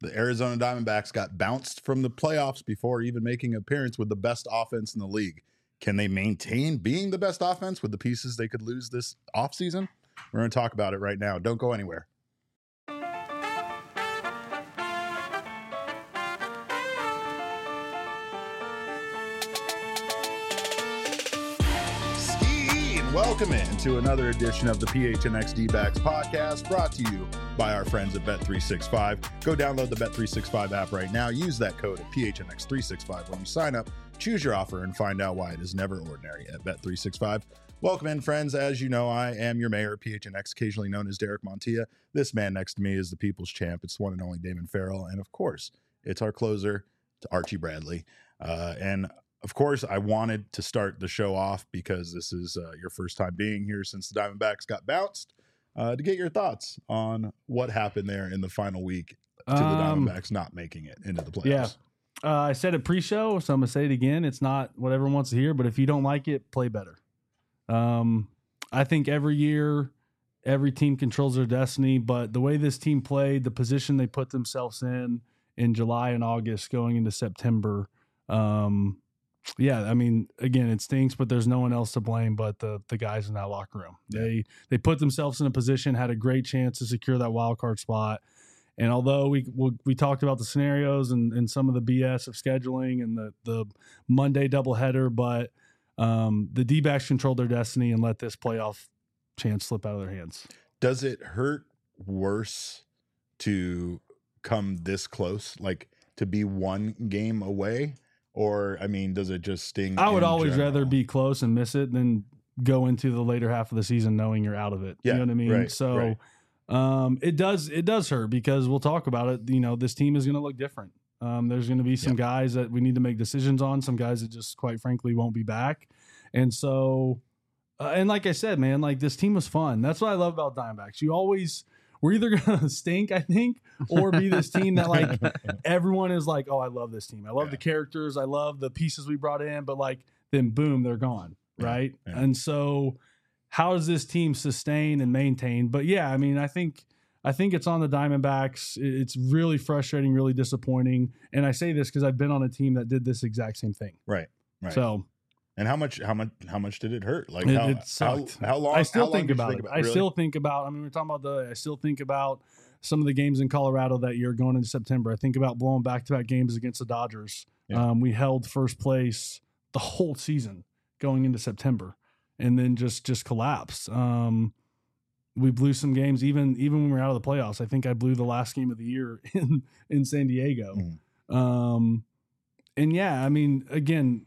The Arizona Diamondbacks got bounced from the playoffs before even making an appearance with the best offense in the league. Can they maintain being the best offense with the pieces they could lose this offseason? We're going to talk about it right now. Don't go anywhere. Welcome in to another edition of the PHNX D-Backs podcast, brought to you by our friends at Bet365. Go download the Bet365 app right now. Use that code at PHNX365 when you sign up. Choose your offer and find out why it is never ordinary at Bet365. Welcome in, friends. As you know, I am your mayor, PHNX, occasionally known as Derek Montilla. This man next to me is the people's champ. It's one and only Damon Farrell. And of course, it's our closer, Archie Bradley. And of course, I wanted to start the show off because this is your first time being here since the Diamondbacks got bounced, to get your thoughts on what happened there in the final week to the Diamondbacks not making it into the playoffs. Yeah. I said it pre-show, so I'm going to say it again. It's not what everyone wants to hear, but if you don't like it, play better. I think every year, every team controls their destiny, but the way this team played, the position they put themselves in July and August going into September, yeah, I mean, again, it stinks, but there's no one else to blame but the guys in that locker room. Yeah. They put themselves in a position, had a great chance to secure that wild card spot. And although we talked about the scenarios and some of the BS of scheduling and the Monday doubleheader, but the D-backs controlled their destiny and let this playoff chance slip out of their hands. Does it hurt worse to come this close, like to be one game away? Or, I mean, does it just sting? I would always rather be close and miss it than go into the later half of the season knowing you're out of it. Yeah, you know what I mean? right, So right. It does hurt because we'll talk about it. You know, this team is going to look different. There's going to be some guys that we need to make decisions on, some guys that just quite frankly won't be back. And so, and like I said, man, like this team was fun. That's what I love about Diamondbacks. We're either going to stink, I think, or be this team that like everyone is like, oh, I love this team. I love the characters. I love the pieces we brought in, but like then boom, they're gone. Right. Yeah. And so how does this team sustain and maintain? But yeah, I mean, I think it's on the Diamondbacks. It's really frustrating, really disappointing. And I say this because I've been on a team that did this exact same thing. Right. Right. So, and how much did it hurt? Like it sucked. How long? I still how long think did you about it. really? I still think about. I mean, we're talking about I still think about some of the games in Colorado that year going into September. I think about blowing back-to-back games against the Dodgers. Yeah. We held first place the whole season going into September, and then just collapsed. We blew some games even when we were out of the playoffs. I think I blew the last game of the year in San Diego. Mm. And yeah, I mean, again,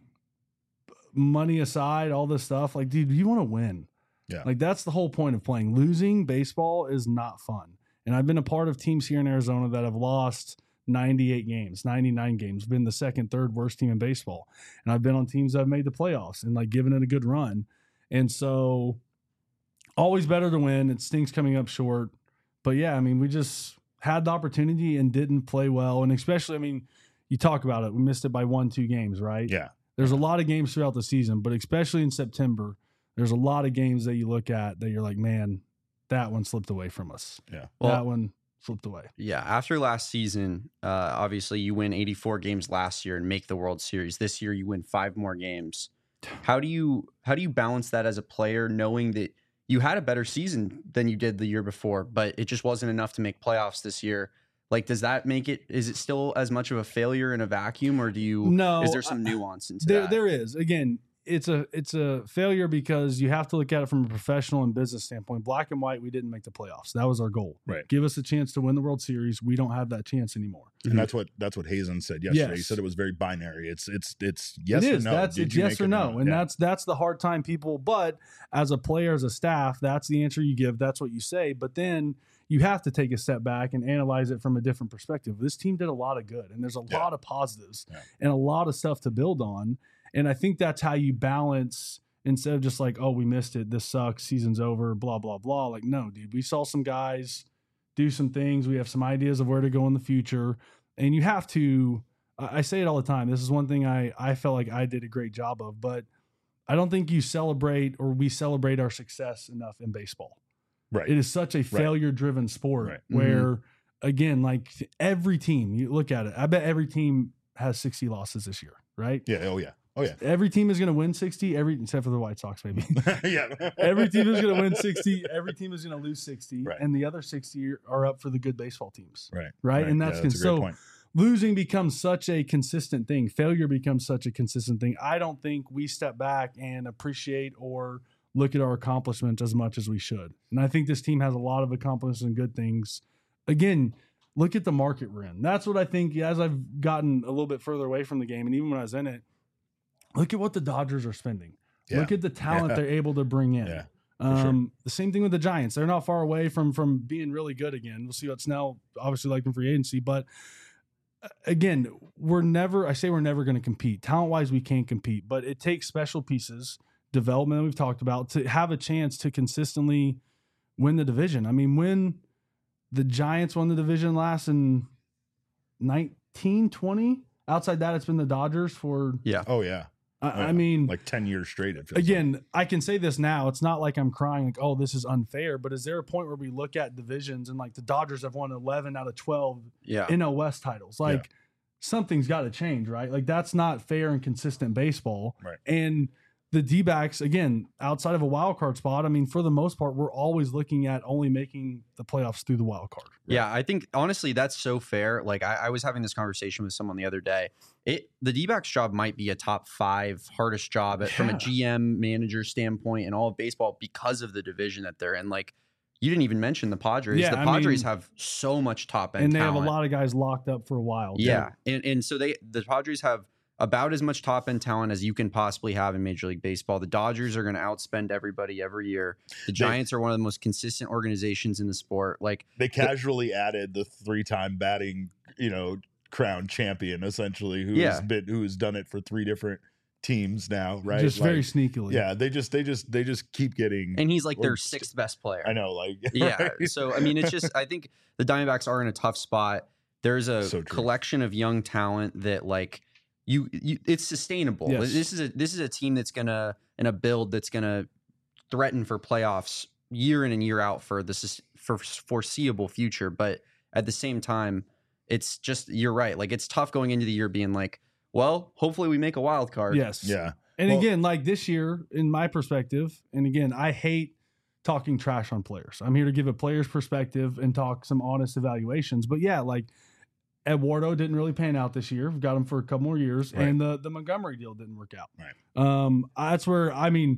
money aside, all this stuff, like, dude, you want to win. Yeah. Like, that's the whole point of playing. Losing baseball is not fun. And I've been a part of teams here in Arizona that have lost 98 games, 99 games, been the second, third worst team in baseball. And I've been on teams that have made the playoffs and like given it a good run. And so always better to win. It stinks coming up short. But yeah, I mean, we just had the opportunity and didn't play well. And especially, I mean, you talk about it. We missed it by 1-2 games, right? Yeah. There's a lot of games throughout the season, but especially in September, there's a lot of games that you look at that you're like, man, that one slipped away from us. Yeah. Well, that one slipped away. Yeah. After last season, obviously you win 84 games last year and make the World Series. This year you win 5 more games. How do you balance that as a player, knowing that you had a better season than you did the year before, but it just wasn't enough to make playoffs this year? Like, does that make it, is it still as much of a failure in a vacuum, or is there some nuance into that? There is. Again, it's a failure because you have to look at it from a professional and business standpoint. Black and white, we didn't make the playoffs. That was our goal. Right. Give us a chance to win the World Series. We don't have that chance anymore. And that's what Hazen said yesterday. Yes. He said it was very binary. It's yes it or is. no. It's yes or no. And that's the hard time people. But as a player, as a staff, that's the answer you give. That's what you say. But then you have to take a step back and analyze it from a different perspective. This team did a lot of good, and there's a lot of positives and a lot of stuff to build on. And I think that's how you balance, instead of just like, oh, we missed it, this sucks, season's over, blah, blah, blah. Like, no, dude, we saw some guys do some things. We have some ideas of where to go in the future. And you have to, I say it all the time, this is one thing I felt like I did a great job of, but I don't think we celebrate our success enough in baseball. Right. It is such a failure-driven sport where again, like every team, you look at it, I bet every team has 60 losses this year, right? Yeah. Oh yeah. Oh yeah. Every team is going to win 60, except for the White Sox, maybe. Yeah. Every team is going to win 60. Every team is going to lose 60. Right. And the other 60 are up for the good baseball teams. Right. Right. And that's, a great point. Losing becomes such a consistent thing. Failure becomes such a consistent thing. I don't think we step back and appreciate or look at our accomplishments as much as we should. And I think this team has a lot of accomplishments and good things. Again, look at the market we're in. That's what I think as I've gotten a little bit further away from the game. And even when I was in it, look at what the Dodgers are spending. Yeah. Look at the talent they're able to bring in. Yeah, sure. The same thing with the Giants. They're not far away from being really good again. We'll see what Snell obviously like in free agency. But again, we're never going to compete. Talent-wise, we can't compete. But it takes special pieces, development that we've talked about, to have a chance to consistently win the division. I mean, when the Giants won the division last in 1920, outside that, it's been the Dodgers for... Yeah. Oh yeah. I mean, like 10 years straight. It feels again, like. I can say this now. It's not like I'm crying like, oh, this is unfair. But is there a point where we look at divisions and like the Dodgers have won 11 out of 12 NL West titles? Like something's got to change, right? Like that's not fair and consistent baseball. Right. And the D-backs, again, outside of a wild card spot, I mean, for the most part, we're always looking at only making the playoffs through the wild card. Right? Yeah, I think honestly that's so fair. Like I was having this conversation with someone the other day. The D-backs job might be a top 5 hardest job from a GM manager standpoint in all of baseball because of the division that they're in. Like you didn't even mention the Padres. Yeah, the Padres have so much top end and they talent. have a lot of guys locked up for a while. Yeah, and so the Padres have about as much top end talent as you can possibly have in Major League Baseball. The Dodgers are going to outspend everybody every year. The Giants are one of the most consistent organizations in the sport. Like they casually added the 3-time batting, crown champion, essentially, who has done it for 3 different teams now, right? Just very sneakily. Yeah, they just keep getting. And he's like their 6th best player. I know, like yeah. Right? So I mean, it's just I think the Diamondbacks are in a tough spot. There's a collection of young talent that like. It's sustainable. Yes. This is a team that's gonna in a build that's gonna threaten for playoffs year in and year out for foreseeable future. But at the same time, it's just you're right. Like it's tough going into the year being like, well, hopefully we make a wild card. Yes. Yeah. And again, like this year, in my perspective, and again, I hate talking trash on players. I'm here to give a player's perspective and talk some honest evaluations. But yeah, like. Eduardo didn't really pan out this year. We've got him for a couple more years, right. and the Montgomery deal didn't work out. Right. That's where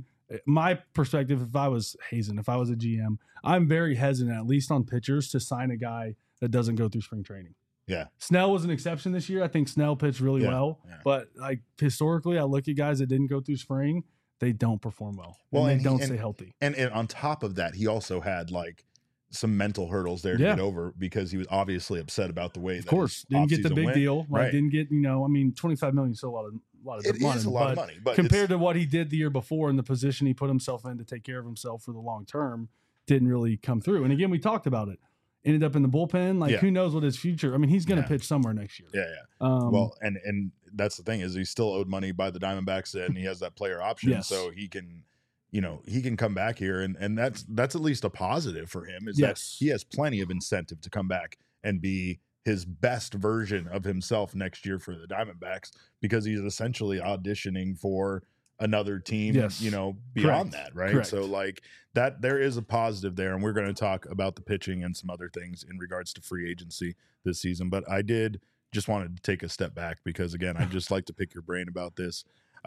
my perspective. If I was Hazen, if I was a GM, I'm very hesitant, at least on pitchers, to sign a guy that doesn't go through spring training. Yeah. Snell was an exception this year. I think Snell pitched really well, but like historically, I look at guys that didn't go through spring, they don't perform well. And they don't stay healthy. And on top of that, he also had like some mental hurdles there to get over because he was obviously upset about the way. Of course, didn't get the big deal. Right. Didn't get $25 million is still a lot of money. It is a lot of money, but compared to what he did the year before and the position he put himself in to take care of himself for the long term, didn't really come through. And again, we talked about it. Ended up in the bullpen. Like who knows what his future? I mean, he's going to pitch somewhere next year. Yeah. Well, and that's the thing is he's still owed money by the Diamondbacks and he has that player option, so he can. He can come back here and that's at least a positive for him is that he has plenty of incentive to come back and be his best version of himself next year for the Diamondbacks because he's essentially auditioning for another team, beyond that. Right. Correct. So like that, there is a positive there. And we're going to talk about the pitching and some other things in regards to free agency this season. But I did just wanted to take a step back because again, I just like to pick your brain about this.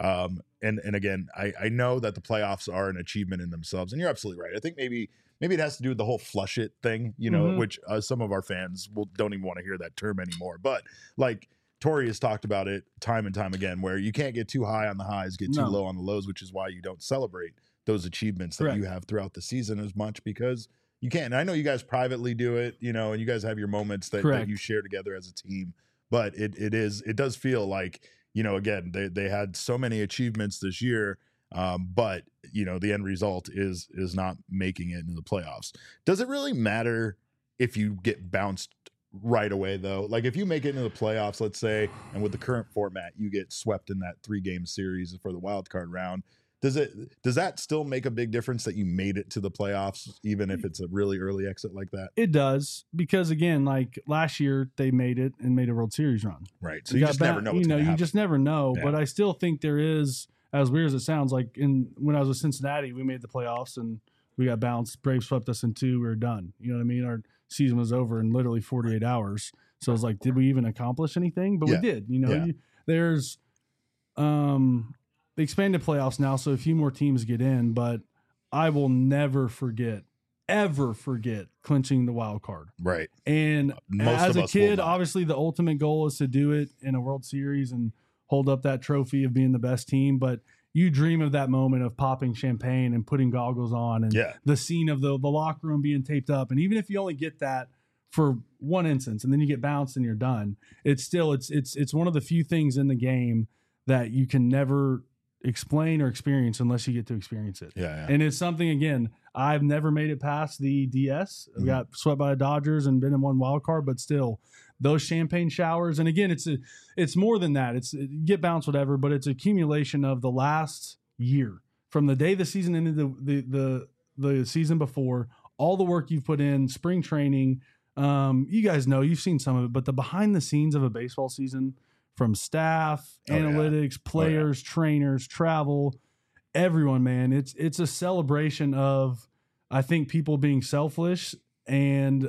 And again, I know that the playoffs are an achievement in themselves, and you're absolutely right. I think maybe it has to do with the whole flush it thing, which some of our fans don't even want to hear that term anymore. But like Torrey has talked about it time and time again, where you can't get too high on the highs, get too low on the lows, which is why you don't celebrate those achievements that you have throughout the season as much because you can't. And I know you guys privately do it, and you guys have your moments that you share together as a team, but it does feel like, again, they had so many achievements this year, but the end result is not making it into the playoffs. Does it really matter if you get bounced right away though? Like if you make it into the playoffs, let's say, and with the current format, you get swept in that 3-game series for the wild card round. Does that still make a big difference that you made it to the playoffs, even if it's a really early exit like that? It does, because again, like last year they made it and made a World Series run. Right. So you just never know what's going to happen. You just never know. Yeah. But I still think there is, as weird as it sounds, like when I was with Cincinnati, we made the playoffs and we got bounced. Braves swept us in 2. We were done. You know what I mean? Our season was over in literally 48 hours. So I was like, did we even accomplish anything? But we did. You know, there's the expanded playoffs now, so a few more teams get in, but I will never ever forget clinching the wild card. Right. And as a kid, obviously the ultimate goal is to do it in a World Series and hold up that trophy of being the best team. But you dream of that moment of popping champagne and putting goggles on and the scene of the locker room being taped up. And even if you only get that for one instance and then you get bounced and you're done, it's still, it's one of the few things in the game that you can never explain or experience unless you get to experience it. Yeah. And it's something, again, I've never made it past the DS. I got swept by the Dodgers and been in one wild card, but still those champagne showers. And again, it's more than that. You get bounced, whatever, but it's accumulation of the last year from the day the season ended, the season before, all the work you've put in, spring training. You guys know, you've seen some of it, but the behind the scenes of a baseball season, from staff, analytics, players, trainers, travel, everyone, man. It's a celebration of, I think, people being selfish and,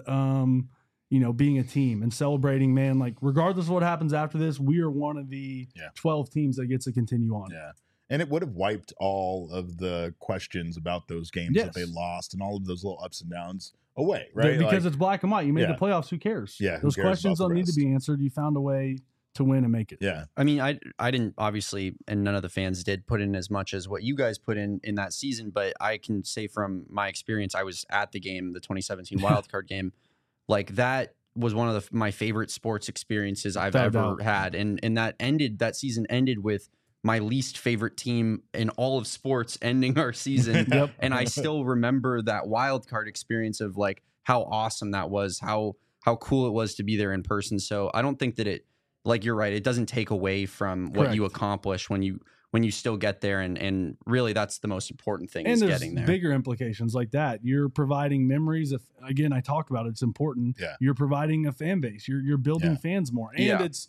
being a team and celebrating, man, like regardless of what happens after this, we are one of the 12 teams that gets to continue on. Yeah. And it would have wiped all of the questions about those games that they lost and all of those little ups and downs away, right? Because it's black and white. You made the playoffs. Who cares? Yeah. Those questions don't need to be answered. You found a way to win and make it. Yeah. I mean, I didn't, obviously, and none of the fans did put in as much as what you guys put in that season, but I can say from my experience, I was at the game, the 2017 wildcard game. Like, that was one of my favorite sports experiences I've ever had. And that season ended with my least favorite team in all of sports ending our season. And I still remember that wild card experience of like how awesome that was, how cool it was to be there in person. So I don't think that it, like, you're right, it doesn't take away from what you accomplish when you still get there, and really that's the most important thing, is getting there. Bigger implications like that. You're providing memories of, again, I talk about it's important. Yeah. You're providing a fan base. You're building fans more. And it's,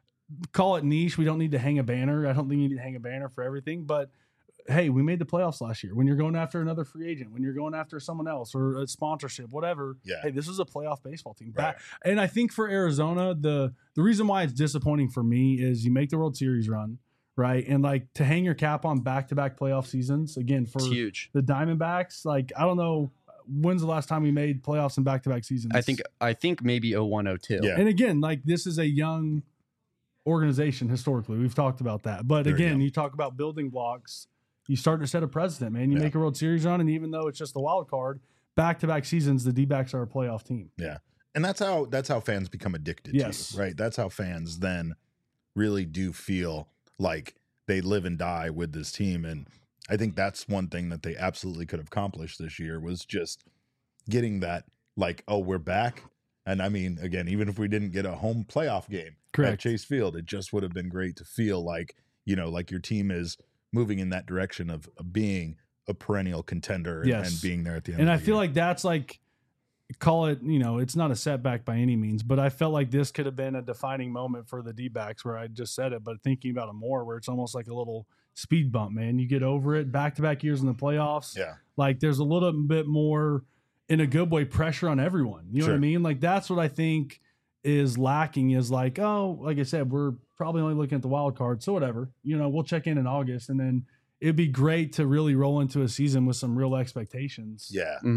call it niche. We don't need to hang a banner. I don't think you need to hang a banner for everything, but hey, we made the playoffs last year. When you're going after another free agent, when you're going after someone else or a sponsorship, whatever, hey, this is a playoff baseball team. Right. And I think for Arizona, the reason why it's disappointing for me is you make the World Series run, right? And like, to hang your cap on back-to-back playoff seasons, again, for huge. The Diamondbacks, like, I don't know, when's the last time we made playoffs in back-to-back seasons? I think maybe 01-02. Yeah. And again, like, this is a young organization historically. We've talked about that. But again, you talk about building blocks. You start to set a precedent, man. You make a World Series run, and even though it's just the wild card, back-to-back seasons, the D-backs are a playoff team. Yeah. And that's how fans become addicted to you, right? That's how fans then really do feel like they live and die with this team. And I think that's one thing that they absolutely could have accomplished this year, was just getting that, like, oh, we're back. And I mean, again, even if we didn't get a home playoff game at Chase Field, it just would have been great to feel like, like your team is moving in that direction of being a perennial contender and being there at the end. And I feel like that's like, call it, it's not a setback by any means, but I felt like this could have been a defining moment for the D-backs, where I just said it, but thinking about it more, where it's almost like a little speed bump, man. You get over it, back-to-back years in the playoffs. Yeah. Like, there's a little bit more, in a good way, pressure on everyone. You know what I mean? Like, that's what I think is lacking, is like, oh, like I said, we're probably only looking at the wild card, so whatever, we'll check in August, and then it'd be great to really roll into a season with some real expectations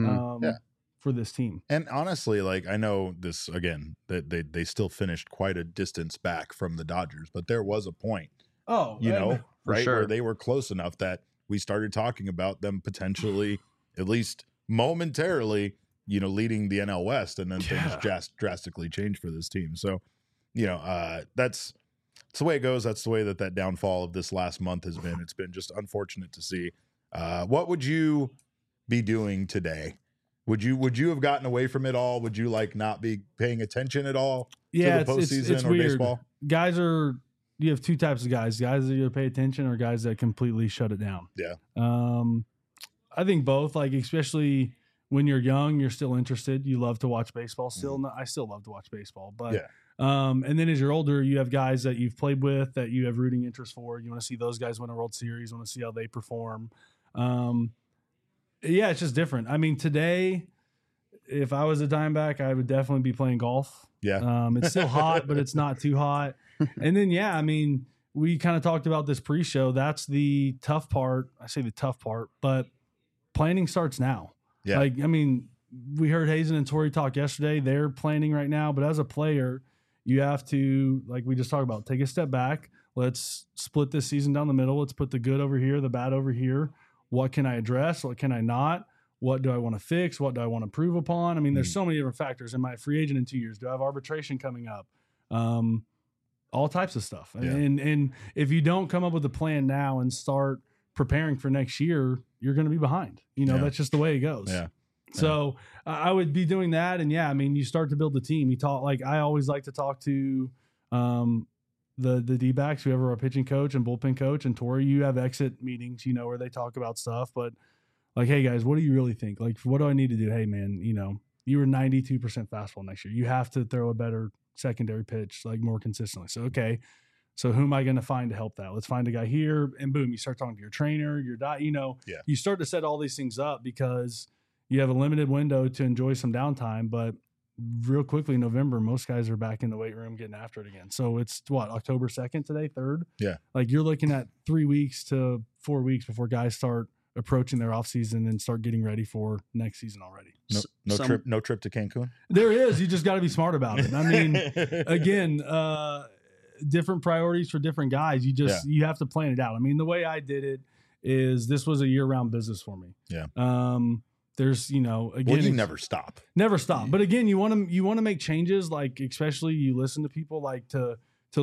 for this team. And honestly, like, I know this, again, that they still finished quite a distance back from the Dodgers, but there was a point, right, where they were close enough that we started talking about them potentially, at least momentarily, leading the NL West, and then things just drastically changed for this team. So, that's the way it goes. That's the way that downfall of this last month has been. It's been just unfortunate to see. What would you be doing today? Would you have gotten away from it all? Would you, like, not be paying attention at all to the postseason or weird. baseball? Guys are you have two types of guys that either pay attention or guys that completely shut it down. Yeah. I think both, like, especially when you're young, you're still interested. You love to watch baseball still. I still love to watch baseball, but, and then as you're older, you have guys that you've played with that you have rooting interest for. You want to see those guys win a World Series, want to see how they perform. Yeah, it's just different. I mean, today, if I was a Diamondback, I would definitely be playing golf. Yeah. It's still hot, but it's not too hot. And then, I mean, we kind of talked about this pre-show. That's the tough part. I say the tough part, but planning starts now. Yeah. Like, I mean, we heard Hazen and Tori talk yesterday. They're planning right now, but as a player, you have to, like we just talked about, take a step back. Let's split this season down the middle. Let's put the good over here, the bad over here. What can I address? What can I not? What do I want to fix? What do I want to improve upon? I mean, there's so many different factors. Am I a free agent in 2 years? Do I have arbitration coming up? All types of stuff. Yeah. And if you don't come up with a plan now and start preparing for next year, you're going to be behind. That's just the way it goes. Yeah. So I would be doing that. And I mean, you start to build the team. You talk, like, I always like to talk to the D-backs, whoever our pitching coach and bullpen coach, and Tori, you have exit meetings, where they talk about stuff, but like, hey guys, what do you really think? Like, what do I need to do? Hey man, you were 92% fastball next year. You have to throw a better secondary pitch, like, more consistently. So, okay. So who am I going to find to help that? Let's find a guy here, and boom, you start talking to your trainer, your you start to set all these things up because you have a limited window to enjoy some downtime, but real quickly in November, most guys are back in the weight room getting after it again. So it's October 2nd today, 3rd? Yeah. Like, you're looking at 3 weeks to 4 weeks before guys start approaching their off season and start getting ready for next season already. No trip to Cancun. There is. You just got to be smart about it. I mean, again, different priorities for different guys. You have to plan it out. I mean, the way I did it is this was a year-round business for me. Yeah. There's, again, you never stop. Never stop. But again, you want to make changes, like, especially you listen to people, like, to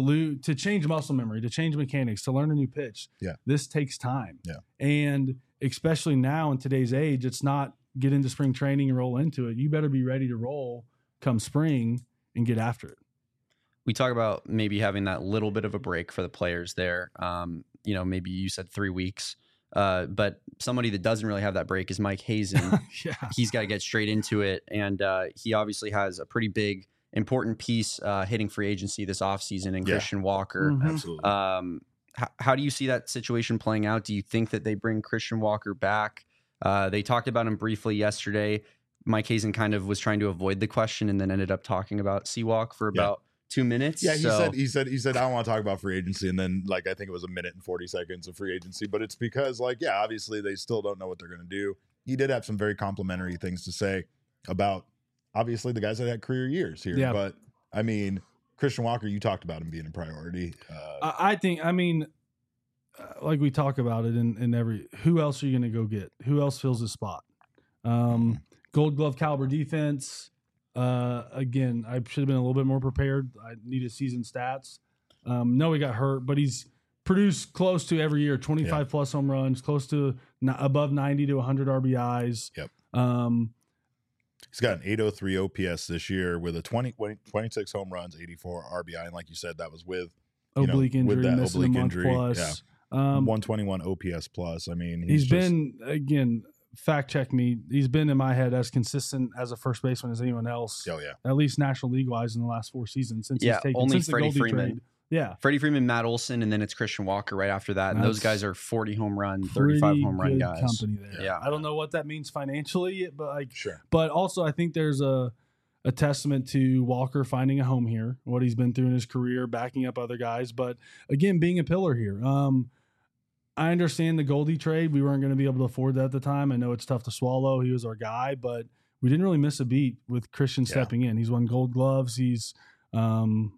change muscle memory, to change mechanics, to learn a new pitch. Yeah. This takes time. Yeah. And especially now in today's age, it's not get into spring training and roll into it. You better be ready to roll come spring and get after it. We talk about maybe having that little bit of a break for the players there. Maybe you said 3 weeks. But somebody that doesn't really have that break is Mike Hazen. Yeah. He's got to get straight into it. And he obviously has a pretty big, important piece hitting free agency this offseason in Christian Walker. Mm-hmm. Absolutely. How do you see that situation playing out? Do you think that they bring Christian Walker back? They talked about him briefly yesterday. Mike Hazen kind of was trying to avoid the question and then ended up talking about Seawalk for about 2 minutes. Yeah, he said I don't want to talk about free agency, and then, like, I think it was 1 minute and 40 seconds of free agency, but it's because, like, obviously they still don't know what they're going to do. He did have some very complimentary things to say about, obviously, the guys that had career years here. Yeah. But I mean, Christian Walker, you talked about him being a priority. I think, like we talk about it in who else are you going to go get? Who else fills his spot? Gold Glove caliber defense. Again, I should have been a little bit more prepared. I needed season stats. No, he got hurt, but he's produced close to every year, 25 plus home runs, close to above 90 to 100 RBIs. Yep. He's got an 803 OPS this year with a 26 home runs, 84 RBI. And like you said, that was with oblique injury, with that missing oblique a month injury. plus. Yeah. 121 OPS plus. I mean, he's been, again, fact check me, he's been in my head as consistent as a first baseman as anyone else. Oh yeah, at least National League wise in the last 4 seasons since he's taken only since Freddie the Goldie Freeman. trade. Yeah, Freddie Freeman, Matt Olson, and then it's Christian Walker right after that. And those guys are 40 home run, 35 home run guys. Company there. Yeah, I don't know what that means financially, but sure. But also, I think there's a testament to Walker finding a home here, what he's been through in his career, backing up other guys. But again, being a pillar here. I understand the Goldie trade. We weren't going to be able to afford that at the time. I know it's tough to swallow. He was our guy, but we didn't really miss a beat with Christian stepping in. He's won Gold Gloves. He's been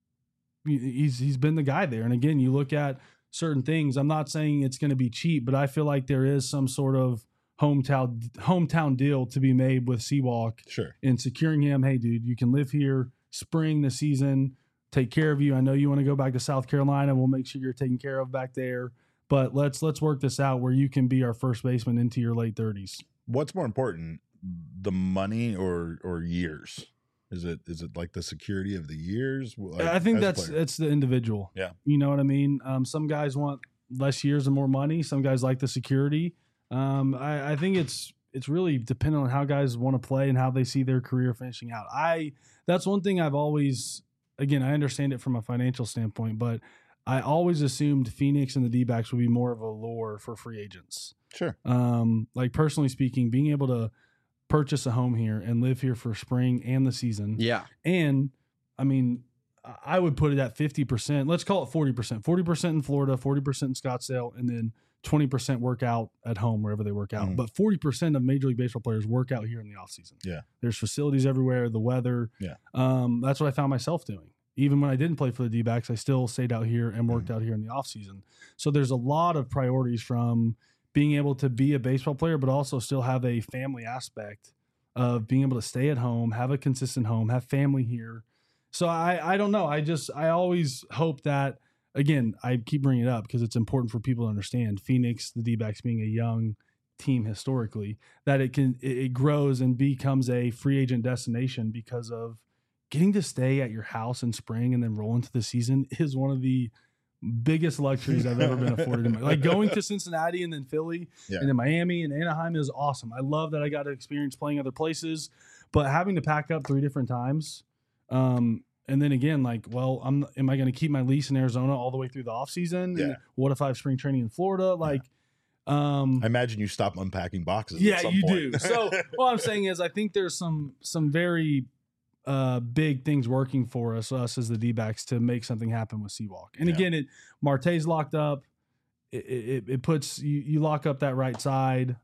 the guy there. And again, you look at certain things. I'm not saying it's going to be cheap, but I feel like there is some sort of hometown deal to be made with Seawalk. Sure. In securing him. Hey, dude, you can live here spring the season, take care of you. I know you want to go back to South Carolina. We'll make sure you're taken care of back there. But let's work this out where you can be our first baseman into your late 30s. What's more important, the money or years? Is it like the security of the years? Like, I think as a player? it's the individual. Yeah. You know what I mean? Some guys want less years and more money. Some guys like the security. I think it's really dependent on how guys want to play and how they see their career finishing out. That's one thing I've always, again, I understand it from a financial standpoint, but I always assumed Phoenix and the D-backs would be more of a lure for free agents. Sure. Like personally speaking, being able to purchase a home here and live here for spring and the season. Yeah. And I mean, I would put it at 50%. Let's call it 40%. 40% in Florida, 40% in Scottsdale, and then 20% work out at home wherever they work out. Mhm. But 40% of Major League Baseball players work out here in the offseason. Yeah. There's facilities everywhere, the weather. Yeah. That's what I found myself doing. Even when I didn't play for the D-backs, I still stayed out here and worked out here in the offseason. So there's a lot of priorities from being able to be a baseball player, but also still have a family aspect of being able to stay at home, have a consistent home, have family here. So I don't know. I always hope that, again, I keep bringing it up because it's important for people to understand Phoenix, the D-backs being a young team historically, that it grows and becomes a free agent destination because of getting to stay at your house in spring and then roll into the season is one of the biggest luxuries I've ever been afforded. Like going to Cincinnati and then Philly and then Miami and Anaheim is awesome. I love that I got to experience playing other places, but having to pack up 3 different times. And then again, like, well, am I going to keep my lease in Arizona all the way through the off season? Yeah. And what if I have spring training in Florida? Like, I imagine you stop unpacking boxes. yeah, at some you point. do. So what I'm saying is I think there's some very big things working for us as the D-backs to make something happen with Seawalk. And again, Marte's locked up. It puts you lock up that right side.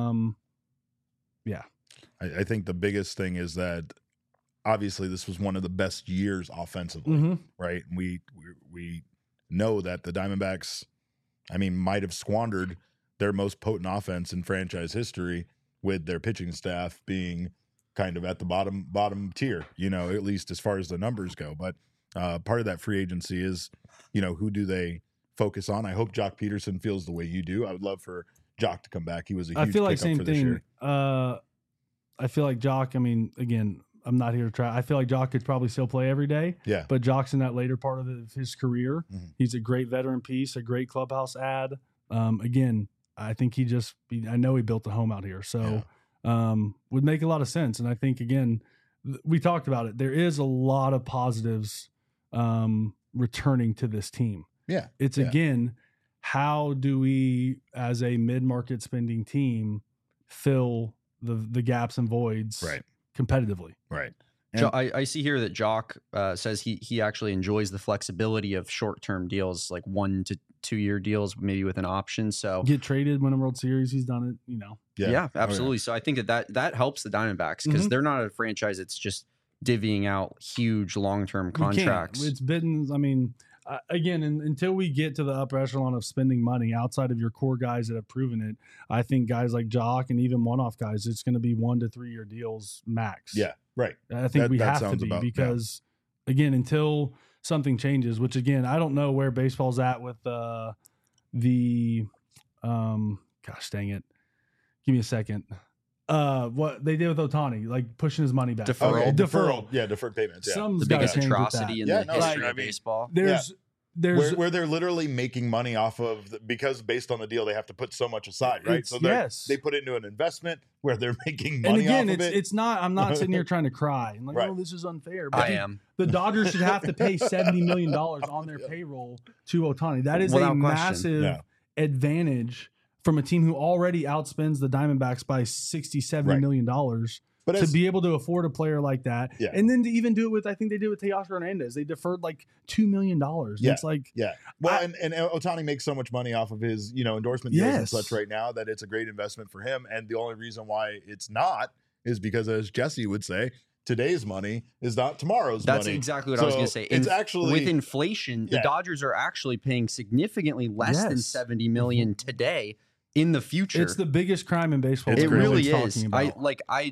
Yeah. I think the biggest thing is that obviously this was one of the best years offensively, right? And we know that the Diamondbacks, I mean, might have squandered their most potent offense in franchise history with their pitching staff being kind of at the bottom tier, you know, at least as far as the numbers go. But part of that free agency is, you know, who do they focus on? I hope Jock Peterson feels the way you do. I would love for Jock to come back. He was a huge I feel like pickup same for this thing. year. I feel like Jock, I mean, again, I'm not here to try. I feel like Jock could probably still play every day. Yeah. But Jock's in that later part of his career. Mhm. He's a great veteran piece, a great clubhouse ad. Again, I think I know he built a home out here. So would make a lot of sense. And I think, again, we talked about it. There is a lot of positives returning to this team. Yeah. It's again, how do we, as a mid-market spending team, fill the gaps and voids competitively? Right. I see here that Jock says he actually enjoys the flexibility of short-term deals, like 1 to 2 year deals, maybe with an option. So get traded, win a World Series. He's done it, you know. Yeah, absolutely. So I think that helps the Diamondbacks because they're not a franchise that's just divvying out huge long-term contracts. It's been, I mean, again, until we get to the upper echelon of spending money outside of your core guys that have proven it, I think guys like Jock and even one-off guys, it's going to be 1 to 3 year deals max. Yeah, right. I think we have to be because, again, until something changes, which again, I don't know where baseball's at with gosh dang it. Give me a second. What they did with Ohtani, like pushing his money back. Deferral. Yeah, deferred payments. Yeah. Something's The gotta biggest change with atrocity in that. the history I of mean, baseball. There's where they're literally making money off of because based on the deal they have to put so much aside, right? So they put it into an investment where they're making money. And again, off of it's not. I'm not sitting here trying to cry and like, Right. oh, this is unfair. But I am. The Dodgers should have to pay $70 million on their payroll to Ohtani. That is Without a question. massive advantage from a team who already outspends the Diamondbacks by $60-70 million But to be able to afford a player like that. Yeah. And then to even do it with, I think they did with Teoscar Hernandez. They deferred like $2 million. Yeah. It's like, well, and Ohtani makes so much money off of his, endorsement deals and such right now that it's a great investment for him. And the only reason why it's not is because, as Jesse would say, today's money is not tomorrow's money. That's exactly what I was going to say. It's actually with inflation, the Dodgers are actually paying significantly less than $70 million today in the future. it's the biggest crime in baseball. It really is. Talking about.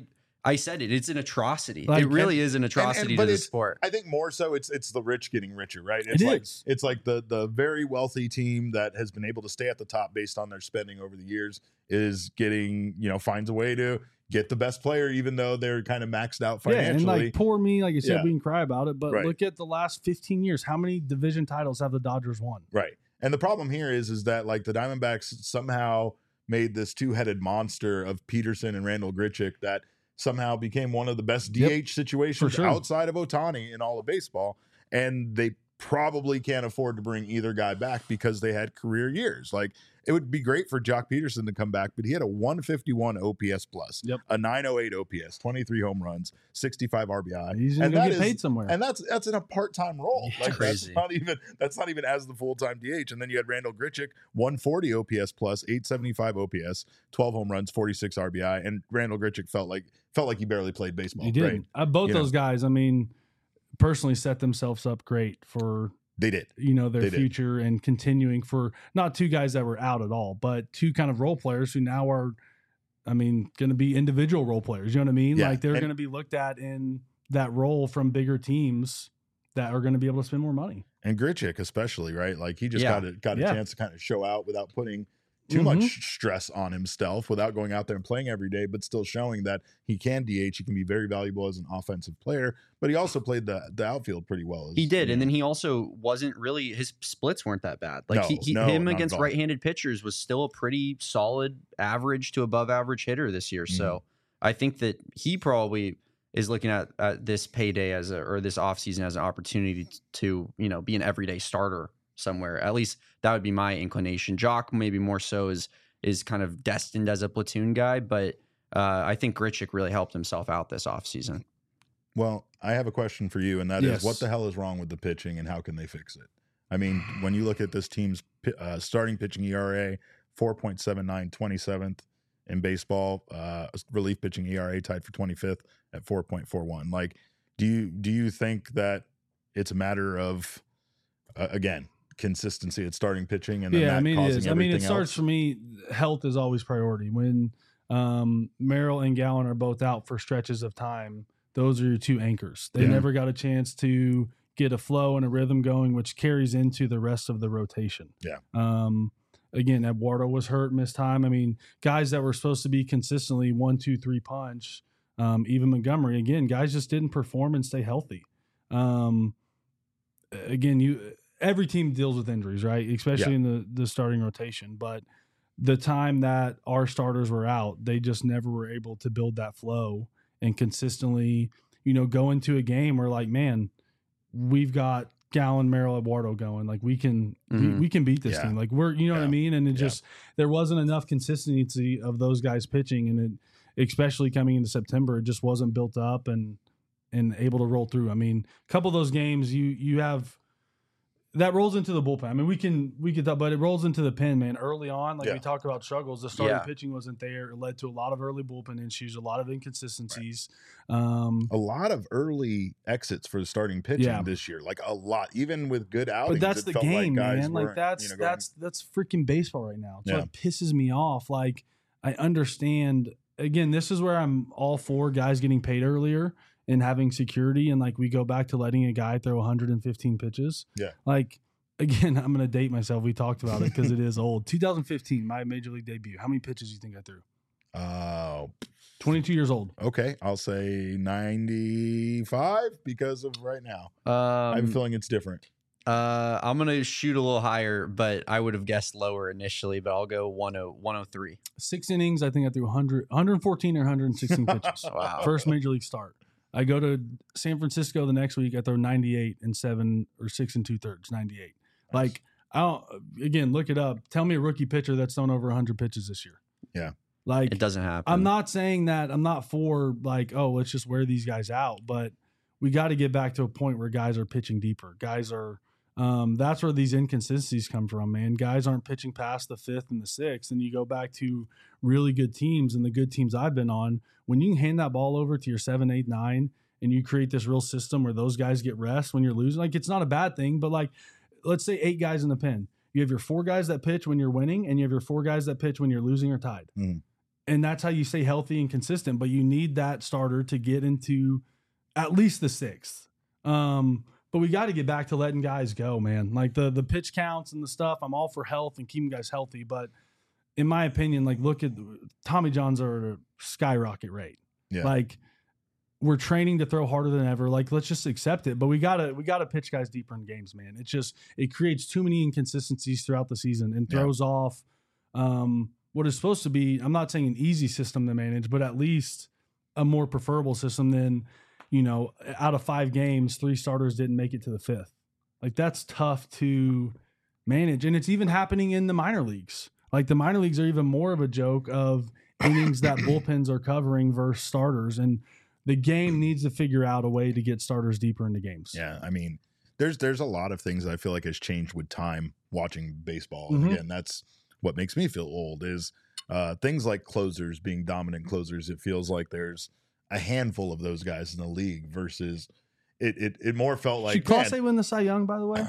I said it. It's an atrocity. Like, it really is an atrocity but to the it's- sport. I think more so it's the rich getting richer, right? It's It's like the very wealthy team that has been able to stay at the top based on their spending over the years is getting, finds a way to get the best player, even though they're kind of maxed out financially. Yeah, and like poor me, like you said, Yeah. we can cry about it, but Right. look at the last 15 years. How many division titles have the Dodgers won? Right. And the problem here is that like the Diamondbacks somehow made this two-headed monster of Peterson and Randall Grichuk that somehow became one of the best DH situations for sure. outside of Ohtani in all of baseball. And they probably can't afford to bring either guy back because they had career years. Like it would be great for Jock Peterson to come back, but he had a 151 OPS plus, Yep. a 908 OPS, 23 home runs, 65 RBI. He's going to that get is- paid somewhere. And that's in a part-time role. Yeah, Like crazy. that's not even as the full-time DH. And then you had Randall Grichuk, 140 OPS plus, 875 OPS, 12 home runs, 46 RBI. And Randall Grichuk felt like he barely played baseball. He did. Right? Both You those guys, I mean, personally set themselves up great for They did. their They did. future and continuing for not two guys that were out at all, but two kind of role players who now are, I mean, going to be individual role players. You know what I mean? Yeah, Like they're and- going to be looked at in that role from bigger teams that are going to be able to spend more money. And Grichuk especially, right? Like he just Yeah. got a Yeah. chance to kind of show out without putting too Mhm. much stress on himself, without going out there and playing every day, but still showing that he can DH. He can be very valuable as an offensive player, but he also played the outfield pretty well. He did, and then he also wasn't really, his splits weren't that bad. Like No, him not at against all. right-handed pitchers was still a pretty solid average to above average hitter this year. Mm-hmm. So I think that he probably is looking at this payday or this offseason as an opportunity to be an everyday starter somewhere. At least that would be my inclination. Jock maybe more so is kind of destined as a platoon guy, but I think Grichuk really helped himself out this offseason. Well, I have a question for you, and that Yes. is, what the hell is wrong with the pitching, and how can they fix it? I mean, when you look at this team's starting pitching ERA, 4.79, 27th in baseball, relief pitching ERA tied for 25th at 4.41. Like, do you think that it's a matter of again, consistency at starting pitching, and then that I mean, it causing is. I mean, it everything starts else? for me. Health is always priority. When Merrill and Gallen are both out for stretches of time, those are your two anchors. They Yeah. never got a chance to get a flow and a rhythm going, which carries into the rest of the rotation. Yeah. Again, Eduardo was hurt, missed time. I mean, guys that were supposed to be consistently 1, 2, 3 punch. Even Montgomery, again, guys just didn't perform and stay healthy. Again, every team deals with injuries, right? Especially in the starting rotation. But the time that our starters were out, they just never were able to build that flow and consistently, go into a game where like, man, we've got Gallen, Merrill, Eduardo going. Like we can we can beat this Yeah. team. Like we're what I mean? And it Yeah. just there wasn't enough consistency of those guys pitching, and it, especially coming into September, it just wasn't built up and able to roll through. I mean, a couple of those games you have that rolls into the bullpen. I mean, we can but it rolls into the pen, man. Early on, like Yeah. we talked about struggles, the starting Yeah. pitching wasn't there. It led to a lot of early bullpen issues, a lot of inconsistencies. A lot of early exits for the starting pitching Yeah. this year, like a lot, even with good outings. But that's it the felt game, like guys man. Like weren't, that's going- that's freaking baseball right now. So Yeah. it pisses me off. Like I understand. Again, this is where I'm all for guys getting paid earlier and having security. And like we go back to letting a guy throw 115 pitches. Yeah. Like again, I'm gonna date myself. We talked about it because it is old. 2015, my major league debut. How many pitches do you think I threw? 22 years old. Okay, I'll say 95 because of right now. I have a feeling it's different. I'm gonna shoot a little higher, but I would have guessed lower initially. But I'll go 103. 6 innings. I think I threw 114 or 116 pitches. Wow. First major league start. I go to San Francisco the next week. I throw 98 and 7 or 6 2/3, 98. Like I don't. Again, look it up. Tell me a rookie pitcher that's thrown over 100 pitches this year. Yeah. Like It doesn't happen. I'm not saying that. I'm not for like, oh, let's just wear these guys out. But we got to get back to a point where guys are pitching deeper. Guys are. That's where these inconsistencies come from, man. Guys aren't pitching past the 5th and the 6th, and you go back to really good teams and the good teams I've been on. When you can hand that ball over to your 7, 8, 9, and you create this real system where those guys get rest when you're losing, like it's not a bad thing. But like, let's say 8 guys in the pen. You have your 4 guys that pitch when you're winning, and you have your 4 guys that pitch when you're losing or tied. Mhm. And that's how you stay healthy and consistent. But you need that starter to get into at least the 6th. But we got to get back to letting guys go, man. Like the pitch counts and the stuff. I'm all for health and keeping guys healthy. But in my opinion, like look at Tommy Johns are at a skyrocket rate. Yeah. Like we're training to throw harder than ever. Like let's just accept it. But we gotta pitch guys deeper in games, man. It creates too many inconsistencies throughout the season and throws off what is supposed to be, I'm not saying an easy system to manage, but at least a more preferable system than, out of 5 games, 3 starters didn't make it to the 5th. Like that's tough to manage. And it's even happening in the minor leagues. Like the minor leagues are even more of a joke of innings that bullpens are covering versus starters. And the game needs to figure out a way to get starters deeper into games. Yeah. I mean, there's a lot of things that I feel like has changed with time watching baseball. And again, that's what makes me feel old is things like closers being dominant closers. It feels like there's a handful of those guys in the league versus it more felt like. Should Clase win the Cy Young, by the way?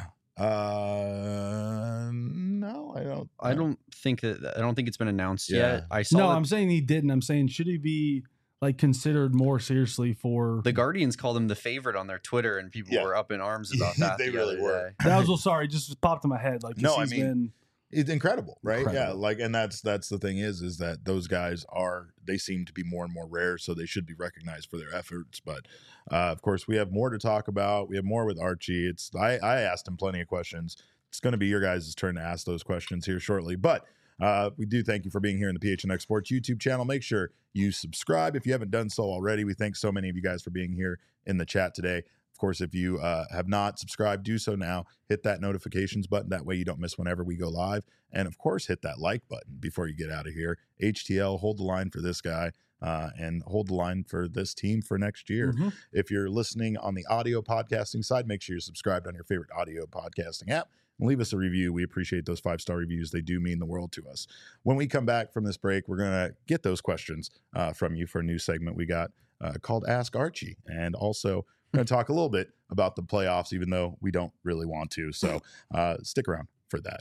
No, I don't. I don't think it's been announced yet. I saw. I'm saying he didn't. I'm saying should he be like considered more seriously for the Guardians called him the favorite on their Twitter, and people were up in arms about that. They really were. That was sorry, just popped in my head. Like it's incredible, right? Incredible. Yeah, like, and that's the thing is that those guys they seem to be more and more rare, so they should be recognized for their efforts. But of course, we have more to talk about. We have more with Archie. I asked him plenty of questions. It's going to be your guys' turn to ask those questions here shortly, but. We do thank you for being here in the PHNX Sports YouTube channel. Make sure you subscribe if you haven't done so already. We thank so many of you guys for being here in the chat today. Of course, if you have not subscribed, do so now. Hit that notifications button. That way you don't miss whenever we go live. And of course, hit that like button before you get out of here. HTL, hold the line for this guy and hold the line for this team for next year. If you're listening on the audio podcasting side, make sure you're subscribed on your favorite audio podcasting app. And leave us a review. We appreciate those 5-star reviews. They do mean the world to us. When we come back from this break, we're going to get those questions from you for a new segment we got called Ask Archie. And also, we're going to talk a little bit about the playoffs, even though we don't really want to. So stick around for that.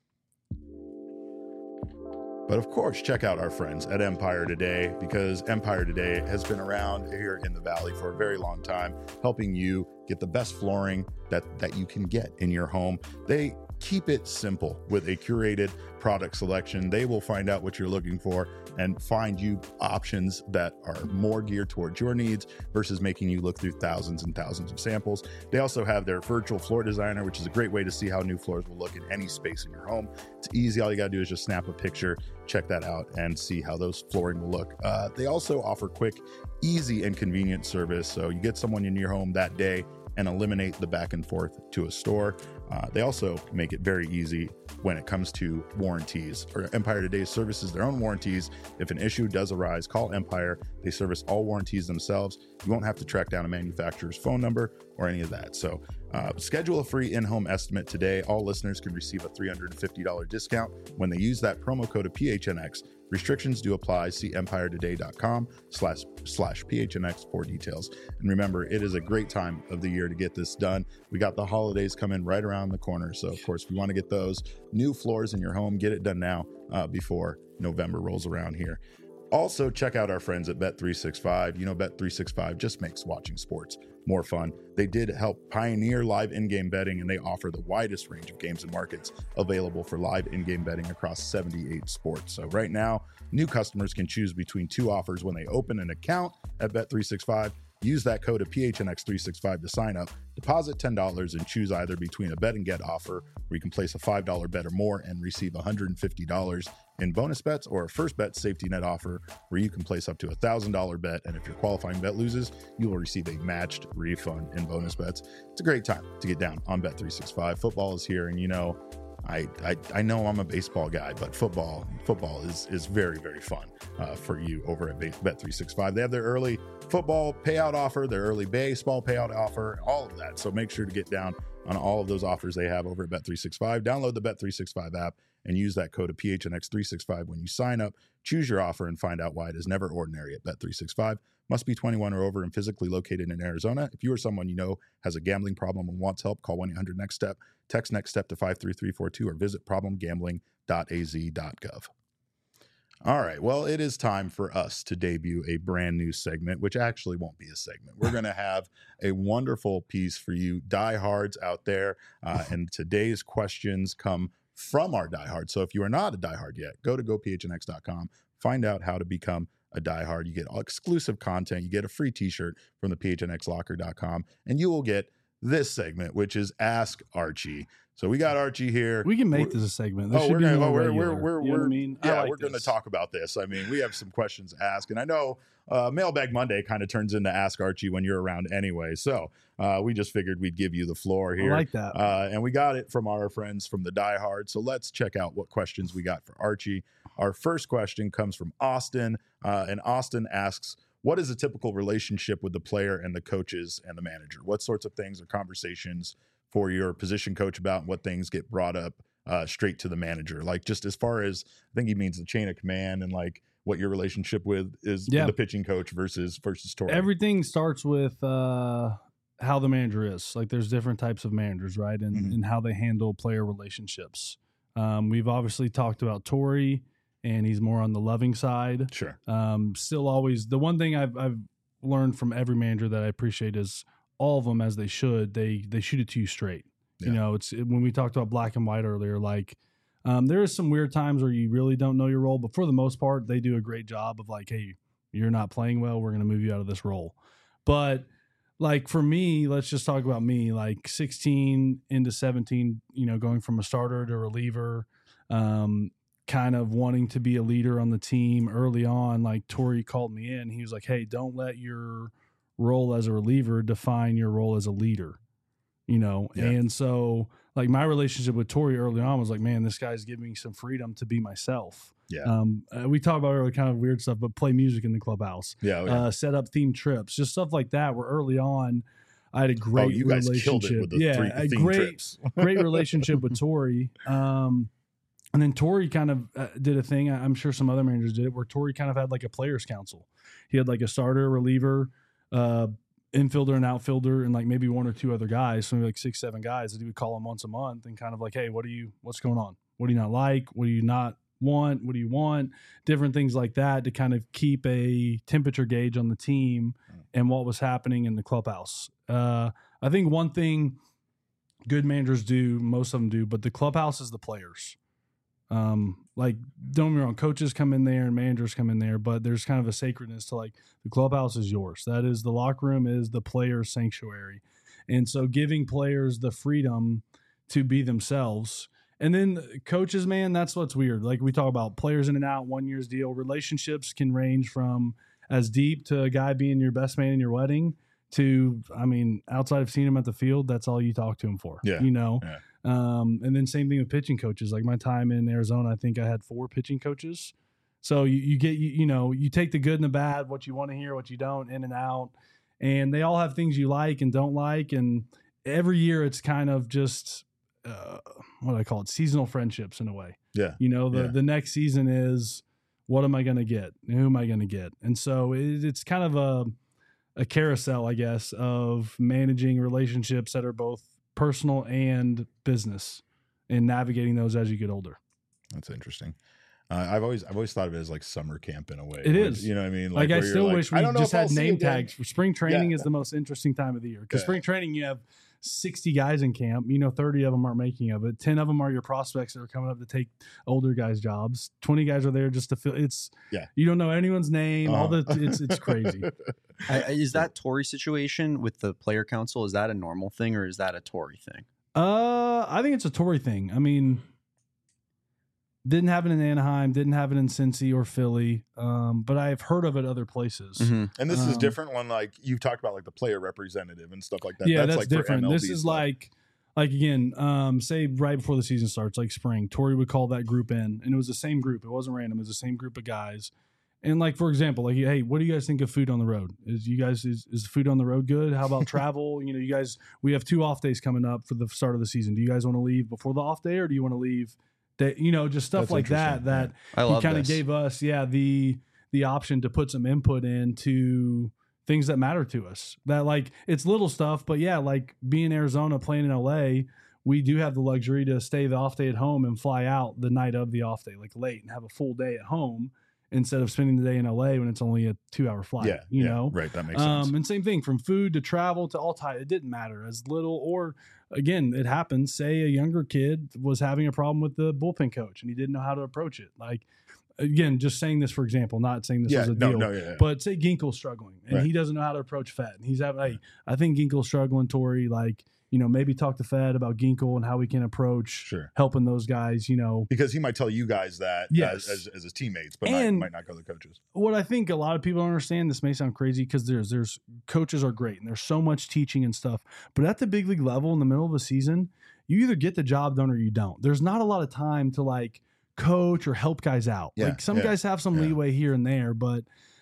But of course, check out our friends at Empire Today, because Empire Today has been around here in the Valley for a very long time, helping you get the best flooring that you can get in your home. They keep it simple with a curated product selection. They will find out what you're looking for and find you options that are more geared towards your needs versus making you look through thousands and thousands of samples. They also have their virtual floor designer, which is a great way to see how new floors will look in any space in your home. It's easy. All you got to do is just snap a picture, check that out, and see how those flooring will look. They also offer quick, easy, and convenient service. So you get someone in your home that day and eliminate the back and forth to a store. They also make it very easy when it comes to warranties. Empire Today services their own warranties. If an issue does arise, call Empire. They service all warranties themselves. You won't have to track down a manufacturer's phone number or any of that. So schedule a free in-home estimate today. All listeners can receive a $350 discount when they use that promo code of PHNX. Restrictions do apply. See empiretoday.com/PHNX for details. And remember, it is a great time of the year to get this done. We got the holidays coming right around the corner. So, of course, if you want to get those new floors in your home, get it done now before November rolls around here. Also, check out our friends at Bet365. You know, Bet365 just makes watching sports more fun. They did help pioneer live in-game betting, and they offer the widest range of games and markets available for live in-game betting across 78 sports. So right now, new customers can choose between 2 offers when they open an account at Bet365. Use that code of PHNX365 to sign up. Deposit $10 and choose either between a bet and get offer where you can place a $5 bet or more and receive $150 in bonus bets, or a first bet safety net offer where you can place up to $1,000 bet, and if your qualifying bet loses, you will receive a matched refund in bonus bets. It's a great time to get down on Bet365. Football is here, and you know, I know I'm a baseball guy, but football is very, very fun for you over at Bet365. They have their early football payout offer, their early baseball payout offer, all of that. So make sure to get down on all of those offers they have over at Bet365. Download the Bet365 app and use that code of PHNX365 when you sign up. Choose your offer and find out why it is never ordinary at Bet365. Must be 21 or over and physically located in Arizona. If you or someone you know has a gambling problem and wants help, call 1-800-NEXT-STEP. Text NEXT STEP to 53342 or visit problemgambling.az.gov. All right. Well, it is time for us to debut a brand new segment, which actually won't be a segment. We're going to have a wonderful piece for you diehards out there. And today's questions come from our diehards. So if you are not a diehard yet, go to gophnx.com, find out how to become a diehard. You get exclusive content. You get a free t-shirt from the phnxlocker.com, and you will get this segment, which is Ask Archie. So we got Archie here. We can make this a segment. This We're going to talk about this. I mean, we have some questions to ask, and I know Mailbag Monday kind of turns into Ask Archie when you're around anyway. So we just figured we'd give you the floor here. I like that. And we got it from our friends from the Die Hard. So let's check out what questions we got for Archie. Our first question comes from Austin, and Austin asks, what is a typical relationship with the player and the coaches and the manager? What sorts of things or conversations for your position coach about, and what things get brought up straight to the manager? Like, just as far as, I think he means the chain of command, and like what your relationship with is with the pitching coach versus Torrey. Everything starts with how the manager is. Like, there's different types of managers, right? And how they handle player relationships. We've obviously talked about Torrey, and he's more on the loving side. Sure. Still always, the one thing I've learned from every manager that I appreciate is all of them, as they should, they shoot it to you straight. Yeah. You know, it's when we talked about black and white earlier, like there is some weird times where you really don't know your role, but for the most part, they do a great job of like, hey, you're not playing well, we're going to move you out of this role. But like for me, let's just talk about me, like 16 into 17, you know, going from a starter to reliever, kind of wanting to be a leader on the team early on. Like Torrey called me in. He was like, hey, don't let your role as a reliever define your role as a leader, you know? Yeah. And so like my relationship with Torrey early on was like, man, this guy's giving me some freedom to be myself. Yeah. We talk about early kind of weird stuff, but play music in the clubhouse, set up themed trips, just stuff like that, where early on I had a great relationship. With the great relationship with Torrey. And then Torrey kind of did a thing. I'm sure some other managers did it, where Torrey kind of had like a players council. He had like a starter, reliever, infielder and outfielder, and like maybe one or two other guys, so maybe like 6-7 guys that he would call them once a month and kind of like, hey, what's going on? What do you not like? What do you not want? What do you want? Different things like that to kind of keep a temperature gauge on the team and what was happening in the clubhouse. I think one thing good managers do, most of them do, but the clubhouse is the players. Like, don't get me wrong, coaches come in there and managers come in there, but there's kind of a sacredness to like the clubhouse is yours. That is, the locker room is the player's sanctuary. And so giving players the freedom to be themselves. And then coaches, man, that's what's weird. Like we talk about players in and out, 1 year's deal. Relationships can range from as deep to a guy being your best man in your wedding to, I mean, outside of seeing him at the field, that's all you talk to him for, you know? Yeah. And then same thing with pitching coaches. Like my time in Arizona, I think I had 4 pitching coaches. So you get, you take the good and the bad, what you want to hear, what you don't, in and out. And they all have things you like and don't like. And every year it's kind of just, what do I call it? Seasonal friendships in a way. Yeah. The next season is, what am I going to get? Who am I going to get? And so it's kind of a carousel, I guess, of managing relationships that are both personal and business and navigating those as you get older. That's interesting. I've always thought of it as like summer camp in a way. It is. You know what I mean? Like I still wish we just had name tags. For spring training is the most interesting time of the year, because spring training, you have 60 guys in camp, 30 of them aren't making of it. 10 of them are your prospects that are coming up to take older guys' jobs. 20 guys are there just to fill. You don't know anyone's name. It's crazy. Is that Torrey situation with the player council? Is that a normal thing, or is that a Torrey thing? I think it's a Torrey thing. I mean, didn't have it in Anaheim, didn't have it in Cincy or Philly, but I've heard of it other places. Mm-hmm. And this is different when, like, you've talked about like the player representative and stuff like that. Yeah, that's like different. For MLB this is stuff. like again, say right before the season starts, like spring, Torrey would call that group in, and it was the same group. It wasn't random. It was the same group of guys. And like, for example, like, hey, what do you guys think of food on the road? Is food on the road good? How about travel? You guys, we have 2 off days coming up for the start of the season. Do you guys want to leave before the off day, or do you want to leave? That, just stuff like that he kind of gave us, the option to put some input into things that matter to us. That, like, it's little stuff, but like being in Arizona, playing in LA, we do have the luxury to stay the off day at home and fly out the night of the off day, like late, and have a full day at home. instead of spending the day in LA when it's only a 2-hour flight. Yeah, you know, right. That makes sense. And same thing from food to travel to all time. It didn't matter as little, or again, it happens. Say a younger kid was having a problem with the bullpen coach and he didn't know how to approach it. Like, again, just saying this for example, not saying this as a deal, but say Ginkel's struggling and he doesn't know how to approach Fed. And he's having, hey, I think Ginkel's struggling, Tori. Like, you know, maybe talk to Fed about Ginkel and how we can approach helping those guys, you know. Because he might tell you guys that as his teammates, but might not go to the coaches. What I think a lot of people don't understand, this may sound crazy because there's coaches are great and there's so much teaching and stuff. But at the big league level in the middle of the season, you either get the job done or you don't. There's not a lot of time to like coach or help guys out. Like some guys have some leeway here and there. But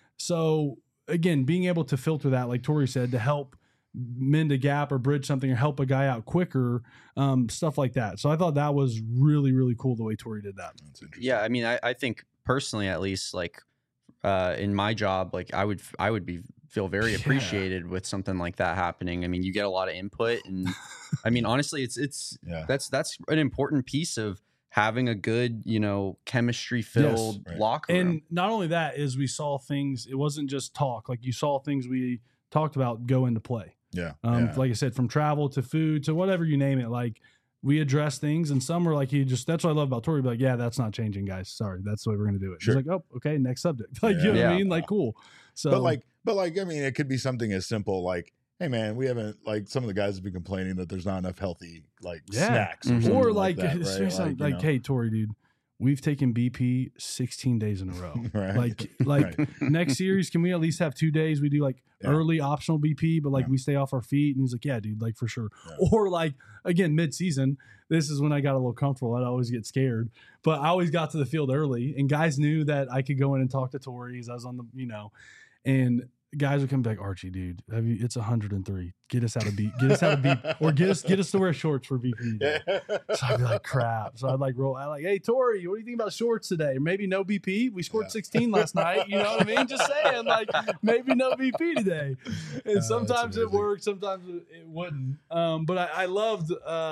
so again, being able to filter that, like Tori said, to help mend a gap or bridge something or help a guy out quicker, stuff like that. So I thought that was really, really cool the way Tori did that. Yeah, I mean, I think personally, at least, like in my job, like I would feel very appreciated with something like that happening. I mean, you get a lot of input, and I mean, honestly, it's that's an important piece of having a good, you know, chemistry filled locker room. And not only that is we saw things. It wasn't just talk. Like you saw things we talked about go into play. Like I said, from travel to food to whatever you name it, like we address things, and some were like, that's what I love about Tori. Be like, yeah, that's not changing, guys. Sorry, that's the way we're going to do it. She's like, oh, okay, next subject. Like, you know what I mean? Like, cool. So, but like, I mean, it could be something as simple like, hey man, we haven't, like, some of the guys have been complaining that there's not enough healthy like snacks or like that, right? like hey Tori, dude, we've taken BP 16 days in a row. Like next series, can we at least have 2 days? We do like early optional BP, but like we stay off our feet. And he's like, yeah, dude, like for sure. Or like, again, mid-season, this is when I got a little comfortable. I'd always get scared, but I always got to the field early and guys knew that I could go in and talk to Tori as I was on the, you know, and guys would come back, Archie, dude, it's 103. Get us out of beat, or get us to wear shorts for BP. So I'd be like, crap. So I'd like roll out like, hey, Tori, what do you think about shorts today? Or maybe no BP. We scored 16 last night. You know what I mean? Just saying, like, maybe no BP today. And sometimes it worked, sometimes it wouldn't. But I loved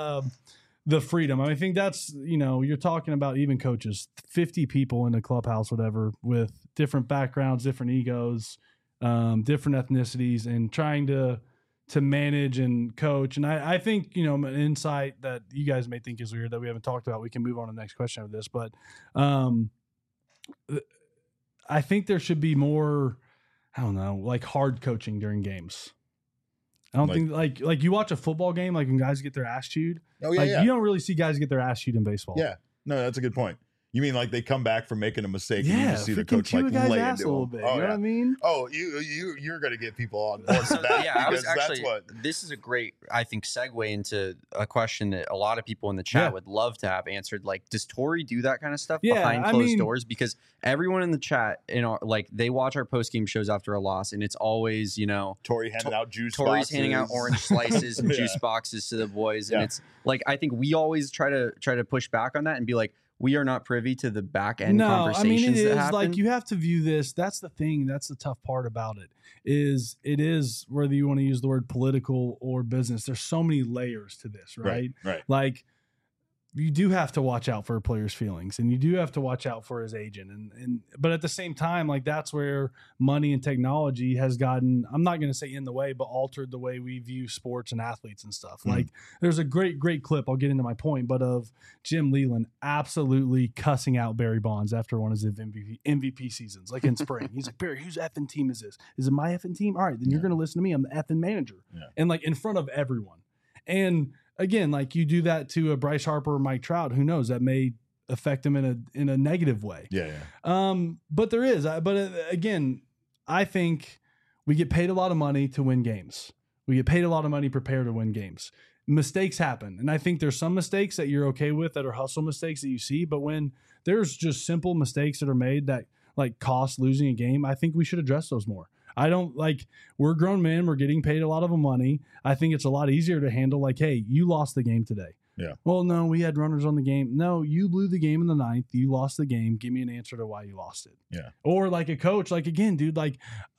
the freedom. I think that's, you know, you're talking about even coaches, 50 people in the clubhouse, whatever, with different backgrounds, different egos, different ethnicities, and trying to manage and coach. And I think, you know, an insight that you guys may think is weird that we haven't talked about, we can move on to the next question of this, but I think there should be more, I don't know, like hard coaching during games. I don't think like you watch a football game, like when guys get their ass chewed. You don't really see guys get their ass chewed in baseball. Yeah. No, that's a good point. You mean like they come back from making a mistake and you just see the coach like lay into them. You know what I mean? Oh, you're going to get people on board with that. I was actually, this is a great, I think, segue into a question that a lot of people in the chat would love to have answered. Like, does Tori do that kind of stuff behind closed doors? Because everyone in the chat, like, they watch our post-game shows after a loss, and it's always, you know, Tori handing out juice boxes. Tori's handing out orange slices and juice boxes to the boys. And it's like, I think we always try to push back on that and be like, we are not privy to the back end conversations that happen. Like, you have to view this. That's the thing. That's the tough part about it is whether you want to use the word political or business. There's so many layers to this, right? Right. Like, you do have to watch out for a player's feelings, and you do have to watch out for his agent. But at the same time, like, that's where money and technology has gotten, I'm not going to say in the way, but altered the way we view sports and athletes and stuff. Mm-hmm. Like, there's a great clip, I'll get into my point, but of Jim Leland absolutely cussing out Barry Bonds after one of his MVP seasons, like in spring. He's like, Barry, whose effing team is this? Is it my effing team? All right, then you're going to listen to me. I'm the effing manager. Yeah. And like in front of everyone. And again, like you do that to a Bryce Harper or Mike Trout, who knows, that may affect him in a negative way. Yeah. But there is, again, I think we get paid a lot of money to win games. We get paid a lot of money prepared to win games. Mistakes happen. And I think there's some mistakes that you're okay with that are hustle mistakes that you see. But when there's just simple mistakes that are made that like cost losing a game, I think we should address those more. I don't like, we're grown men. We're getting paid a lot of money. I think it's a lot easier to handle like, hey, you lost the game today. Yeah. Well, no, we had runners on the game. No, you blew the game in the ninth. You lost the game. Give me an answer to why you lost it. Yeah. Or like a coach, like again, dude, like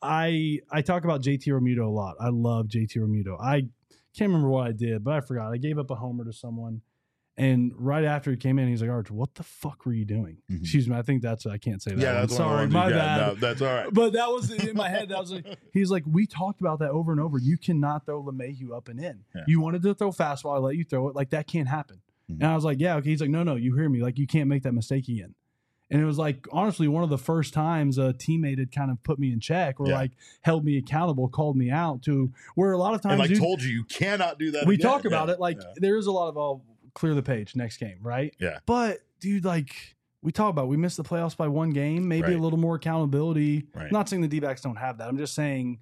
I talk about JT Realmuto a lot. I love JT Realmuto. I can't remember what I did, but I forgot. I gave up a homer to someone And right after he came in, he's like, Arch, what the fuck were you doing? Mhm. Excuse me. I think I can't say that. Yeah, one. that's Sorry, my bad. No, that's all right. But that was in my head. That was like, he's like, we talked about that over and over. You cannot throw LeMahieu up and in. Yeah. You wanted to throw fastball. I let you throw it. Like, that can't happen. Mhm. And I was like, yeah, okay. He's like, no, you hear me. Like, you can't make that mistake again. And it was like, honestly, one of the first times a teammate had kind of put me in check or like held me accountable, called me out to where a lot of times. And like told you cannot do that. We again. talk about it. Like, there is a lot of, clear the page next game, right? Yeah. But dude, like we talk about, we missed the playoffs by one game, maybe a little more accountability. Right. I'm not saying the D-backs don't have that. I'm just saying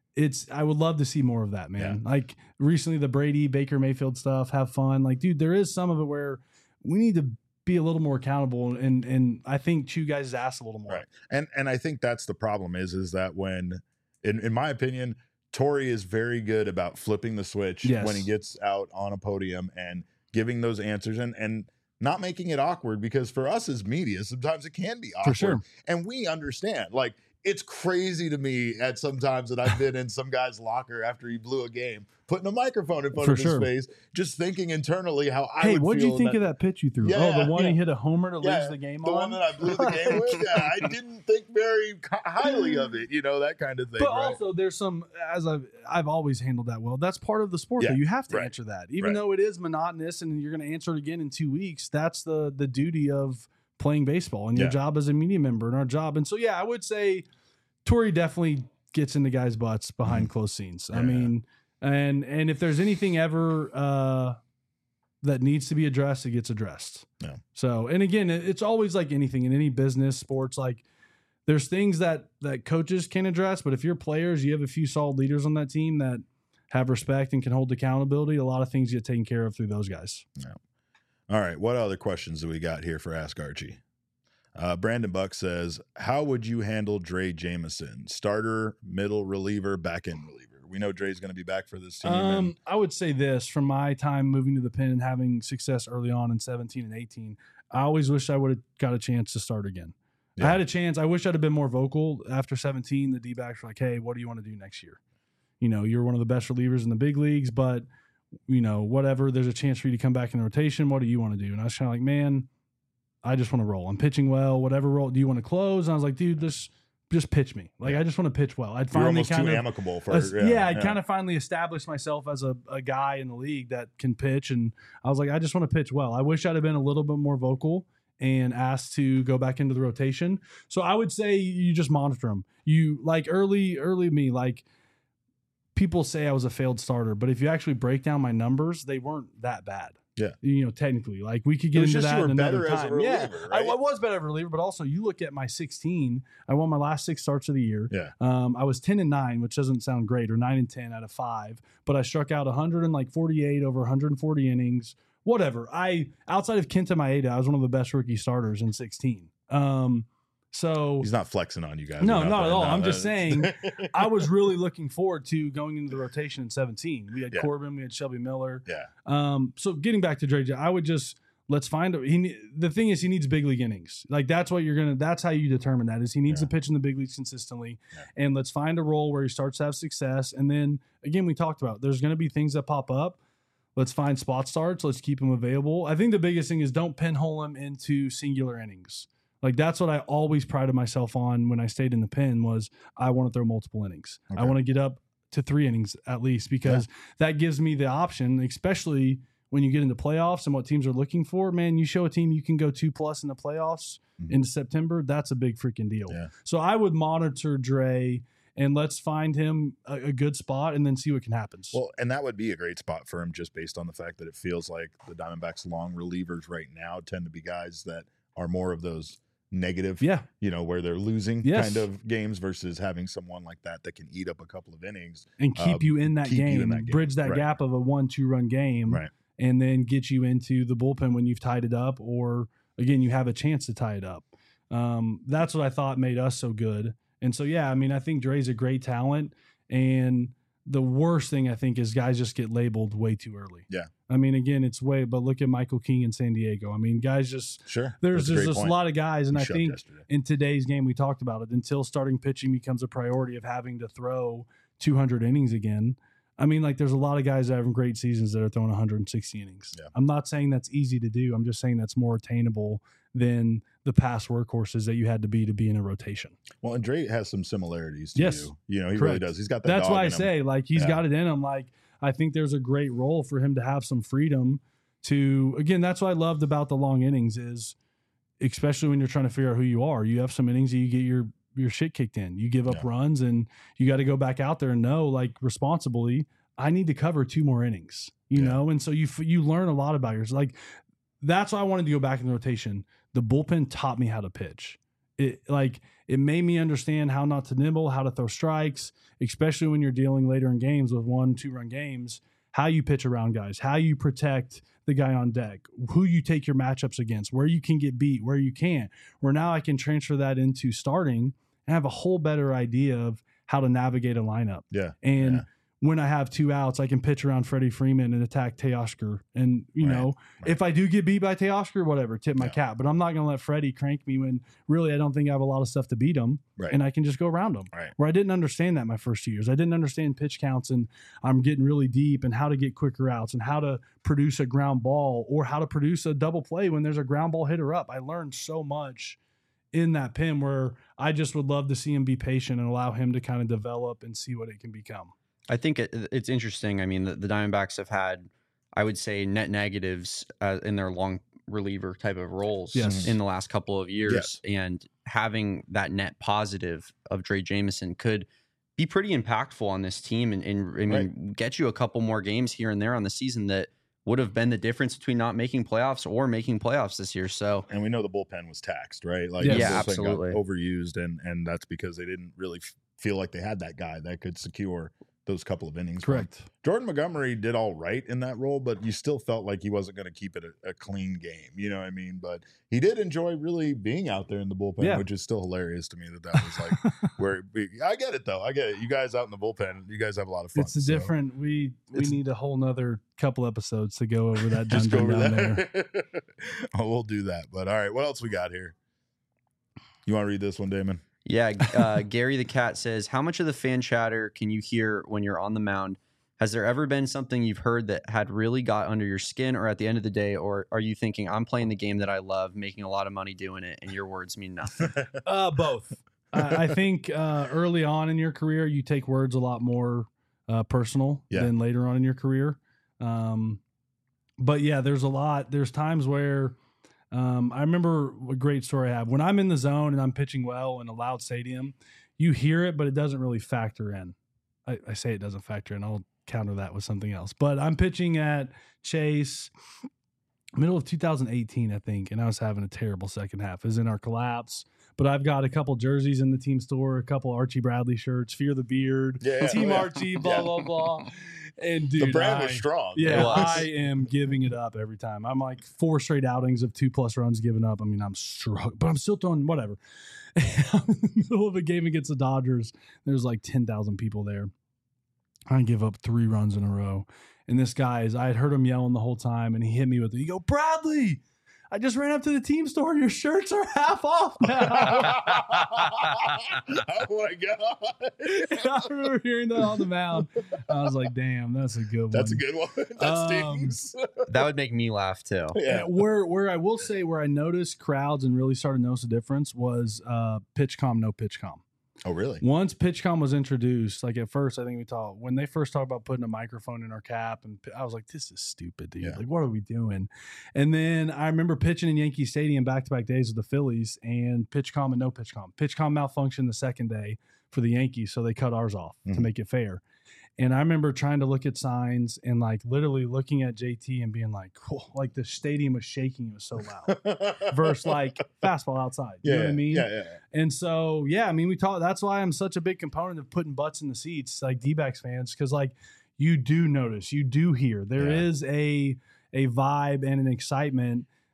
I would love to see more of that, man. Yeah. Like recently the Brady, Baker Mayfield stuff, have fun. Like, dude, there is some of it where we need to be a little more accountable and I think chew guys' ass a little more. Right. And I think that's the problem is that when, in my opinion, Torrey is very good about flipping the switch when he gets out on a podium and giving those answers and not making it awkward, because for us as media, sometimes it can be awkward. For sure. And we understand. Like, it's crazy to me at sometimes that I've been in some guy's locker after he blew a game, putting a microphone in front of his face, just thinking internally how I would feel. What did you think of that pitch you threw? The one he hit a homer to lose the game the one that I blew the game with? Yeah, I didn't think very highly of it, that kind of thing. But also there's some, as I've always handled that well, that's part of the sport though. You have to answer that. Even though it is monotonous and you're going to answer it again in 2 weeks, that's the duty of playing baseball and your job as a media member and our job. And so, I would say Torrey definitely gets into guys' butts behind closed scenes. I mean, and if there's anything ever that needs to be addressed, it gets addressed. Yeah. So, and again, it's always like anything in any business, sports, like there's things that coaches can address, but if you're players, you have a few solid leaders on that team that have respect and can hold accountability. A lot of things get taken care of through those guys. Yeah. All right. What other questions do we got here for Ask Archie? Brandon Buck says, how would you handle Dre Jameson? Starter, middle reliever, back end reliever? We know Dre's going to be back for this team. I would say this, from my time moving to the pen and having success early on in 17 and 18, I always wish I would have got a chance to start again. Yeah. I had a chance. I wish I'd have been more vocal after 17. The D-backs were like, hey, what do you want to do next year? You're one of the best relievers in the big leagues, but whatever, there's a chance for you to come back in the rotation. What do you want to do? And I was kind of like, man, I just want to roll. I'm pitching well. Whatever role. Do you want to close? And I was like, dude, just pitch me. Like, I just want to pitch well. I'd finally almost kind too of amicable for I'd kind of finally established myself as a guy in the league that can pitch. And I was like, I just want to pitch well. I wish I'd have been a little bit more vocal and asked to go back into the rotation. So I would say you just monitor them. You like early me, like people say I was a failed starter, but if you actually break down my numbers, they weren't that bad. Yeah. Technically, like we could get into that in another time. As a reliever, right? I was better as a reliever, but also you look at my 16, I won my last 6 starts of the year. Yeah. I was 10-9, which doesn't sound great, or 9-10 out of 5, but I struck out 148 over 140 innings, whatever. Outside of Kenta Maeda, I was one of the best rookie starters in 16. So he's not flexing on you guys. No, not at all. I'm just saying I was really looking forward to going into the rotation in 17. We had Corbin, we had Shelby Miller. Yeah. So getting back to Dre, I would just let's find the thing is he needs big league innings. Like that's how you determine that is he needs to pitch in the big leagues consistently. Yeah. And let's find a role where he starts to have success. And then again, we talked about there's going to be things that pop up. Let's find spot starts. Let's keep him available. I think the biggest thing is don't pinhole him into singular innings. Like that's what I always prided myself on when I stayed in the pen was I want to throw multiple innings. Okay. I want to get up to 3 innings at least because that gives me the option, especially when you get into playoffs and what teams are looking for. Man, you show a team you can go 2+ in the playoffs into September. That's a big freaking deal. Yeah. So I would monitor Dre and let's find him a good spot and then see what can happen. Well, and that would be a great spot for him just based on the fact that it feels like the Diamondbacks' long relievers right now tend to be guys that are more of those negative, where they're losing kind of games versus having someone like that can eat up a couple of innings and keep you in that game, bridge that gap of a 1-2 run game, and then get you into the bullpen when you've tied it up, or again, you have a chance to tie it up. That's what I thought made us so good. And so, I think Dre's a great talent, and the worst thing I think is guys just get labeled way too early. Yeah. Again, but look at Michael King in San Diego. Guys just, there's just a lot of guys. And I think in today's game, we talked about it, until starting pitching becomes a priority of having to throw 200 innings again. I mean, like there's a lot of guys that have great seasons that are throwing 160 innings. Yeah. I'm not saying that's easy to do. I'm just saying that's more attainable than the past workhorses that you had to be in a rotation. Well, and Dre has some similarities to Yes. you. You know, he Correct. really does. He's got that. That's dog why I in him. say, like, he's Yeah. got it in him. Like, I think there's a great role for him to have some freedom to, again, that's what I loved about the long innings is, especially when you're trying to figure out who you are. You have some innings that you get your shit kicked in. You give up Yeah. runs, and you got to go back out there and know, like, responsibly, I need to cover 2 more innings, you Yeah. know? And so you learn a lot about yours. Like, that's why I wanted to go back in the rotation. The bullpen taught me how to pitch. It made me understand how not to nibble, how to throw strikes, especially when you're dealing later in games with 1-2 run games, how you pitch around guys, how you protect the guy on deck, who you take your matchups against, where you can get beat, where you can't. Where now I can transfer that into starting and have a whole better idea of how to navigate a lineup. Yeah. And Yeah. when I have 2 outs, I can pitch around Freddie Freeman and attack Teoscar. And, you Right, know, right. if I do get beat by Teoscar, whatever, tip my Yeah. cap. But I'm not going to let Freddie crank me when really I don't think I have a lot of stuff to beat him. Right. And I can just go around him. Right. Where I didn't understand that my first 2 years. I didn't understand pitch counts, and I'm getting really deep and how to get quicker outs and how to produce a ground ball or how to produce a double play when there's a ground ball hitter up. I learned so much in that pen where I just would love to see him be patient and allow him to kind of develop and see what it can become. I think it's interesting. I mean, the Diamondbacks have had, I would say, net negatives in their long reliever type of roles Yes. in the last couple of years. And having that net positive of Dre Jameson could be pretty impactful on this team and I mean, get you a couple more games here and there on the season that would have been the difference between not making playoffs or making playoffs this year. So, And we know the bullpen was taxed, right? Like Yes. the Yeah, bullpen got absolutely. overused, and that's because they didn't really feel like they had that guy that could secure those couple of innings. Correct. Jordan Montgomery did all right in that role, but you still felt like he wasn't going to keep it a clean game. You know what I mean? But he did enjoy really being out there in the bullpen, Yeah. which is still hilarious to me that was like where I get it though. I get it. You guys out in the bullpen, you guys have a lot of fun. It's a so different. We it's- need a whole nother couple episodes to go over that Just go dungeon over down there. there. Oh, we'll do that. But all right, what else we got here? You want to read this one, Damon? yeah, Gary the Cat says, how much of the fan chatter can you hear when you're on the mound? Has there ever been something you've heard that had really got under your skin, or at the end of the day, or are you thinking, I'm playing the game that I love, making a lot of money doing it, and your words mean nothing? Both. I think early on in your career, you take words a lot more personal Yeah. than later on in your career. But yeah, there's times where I remember a great story I have. When I'm in the zone and I'm pitching well in a loud stadium, you hear it, but it doesn't really factor in. I say it doesn't factor in. I'll counter that with something else. But I'm pitching at Chase middle of 2018, I think, and I was having a terrible second half. It was in our collapse. But I've got a couple jerseys in the team store, a couple Archie Bradley shirts, Fear the Beard, Yeah, Team yeah. Archie, blah, Yeah. blah, blah. And dude, The brand was strong. yeah, It was. I am giving it up every time. I'm like 4 straight outings of 2+ runs given up. I mean, I'm struggling, but I'm still throwing whatever. I'm in the middle of a game against the Dodgers. There's like 10,000 people there. I give up 3 runs in a row. And this guy I had heard him yelling the whole time, and he hit me with it. He go, Bradley, I just ran up to the team store. Your shirts are half off now. Oh my god! I remember hearing that on the mound. I was like, damn, that's a good one. That's a good one. That stings. That would make me laugh too. Yeah. Where I will say where I noticed crowds and really started to notice the difference was PitchCom, no PitchCom. Oh really? Once PitchCom was introduced, like at first, I think when they first talked about putting a microphone in our cap, and I was like, this is stupid, dude. Yeah. Like, what are we doing? And then I remember pitching in Yankee Stadium back-to-back days with the Phillies, and PitchCom and no PitchCom. PitchCom malfunctioned the second day for the Yankees, so they cut ours off to Mhm. make it fair. And I remember trying to look at signs and like literally looking at JT and being like, cool, like the stadium was shaking. It was so loud. Versus like fastball outside. You know what I mean? Yeah. And so, yeah, I mean, that's why I'm such a big component of putting butts in the seats, like D-backs fans, because like you do notice, you do hear there Yeah. is a vibe and an excitement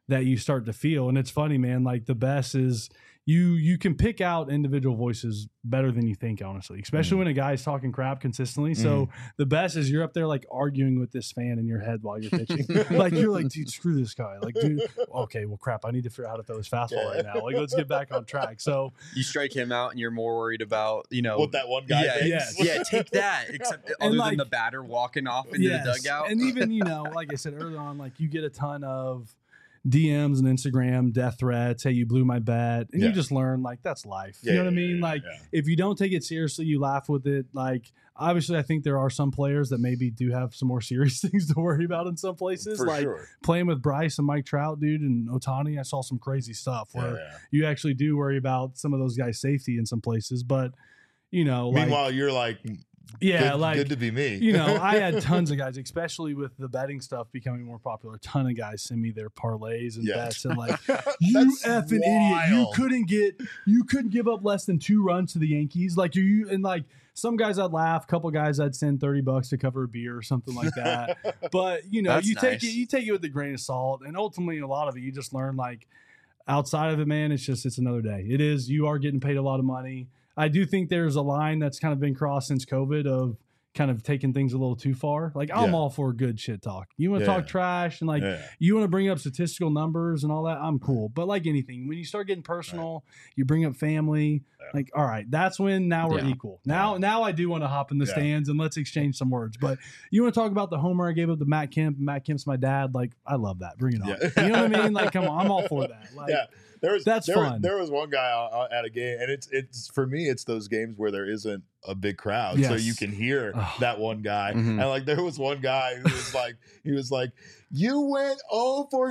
that you start to feel. And it's funny, man, like the best is you can pick out individual voices better than you think, honestly, especially when a guy's talking crap consistently. So the best is you're up there like arguing with this fan in your head while you're pitching. Like you're like, dude, screw this guy. Like, dude, okay, well, crap, I need to figure out how to throw his fastball right now. Like, let's get back on track. So you strike him out and you're more worried about, you know, what that one guy thinks. Yeah, take that. Except other than the batter walking off into the dugout. And even, you know, like I said earlier on, like you get a ton of DMs and Instagram death threats. Hey, you blew my bet. And you just learn like that's life. You know what I mean? Like if you don't take it seriously, you laugh with it. Like obviously I think there are some players that maybe do have some more serious things to worry about in some places. For like sure. Playing with Bryce and Mike Trout, dude, and Ohtani, I saw some crazy stuff where you actually do worry about some of those guys' safety in some places. But you know, meanwhile, you're like, good to be me. You know, I had tons of guys, especially with the betting stuff becoming more popular. A ton of guys send me their parlays and bets, and like, you effing idiot, you couldn't give up less than 2 runs to the Yankees. Like and like some guys I'd laugh, a couple guys I'd send $30 to cover a beer or something like that. But you know, you take it with a grain of salt, and ultimately a lot of it you just learn like outside of it, man. It's another day. It is. You are getting paid a lot of money. I do think there's a line that's kind of been crossed since COVID of kind of taking things a little too far. Like I'm all for good shit talk. You want to talk trash and like you want to bring up statistical numbers and all that. I'm cool. But like anything, when you start getting personal, you bring up family, like, all right, that's when now we're equal. Now I do want to hop in the stands and let's exchange some words. But you want to talk about the homer I gave up to Matt Kemp. Matt Kemp's my dad. Like I love that. Bring it on. You know what I mean? Like, come on, I'm all for that. Like, that's fun. There was one guy at a game, and it's for me, it's those games where there isn't a big crowd, so you can hear that one guy. And like there was one guy who was like, you went 0 for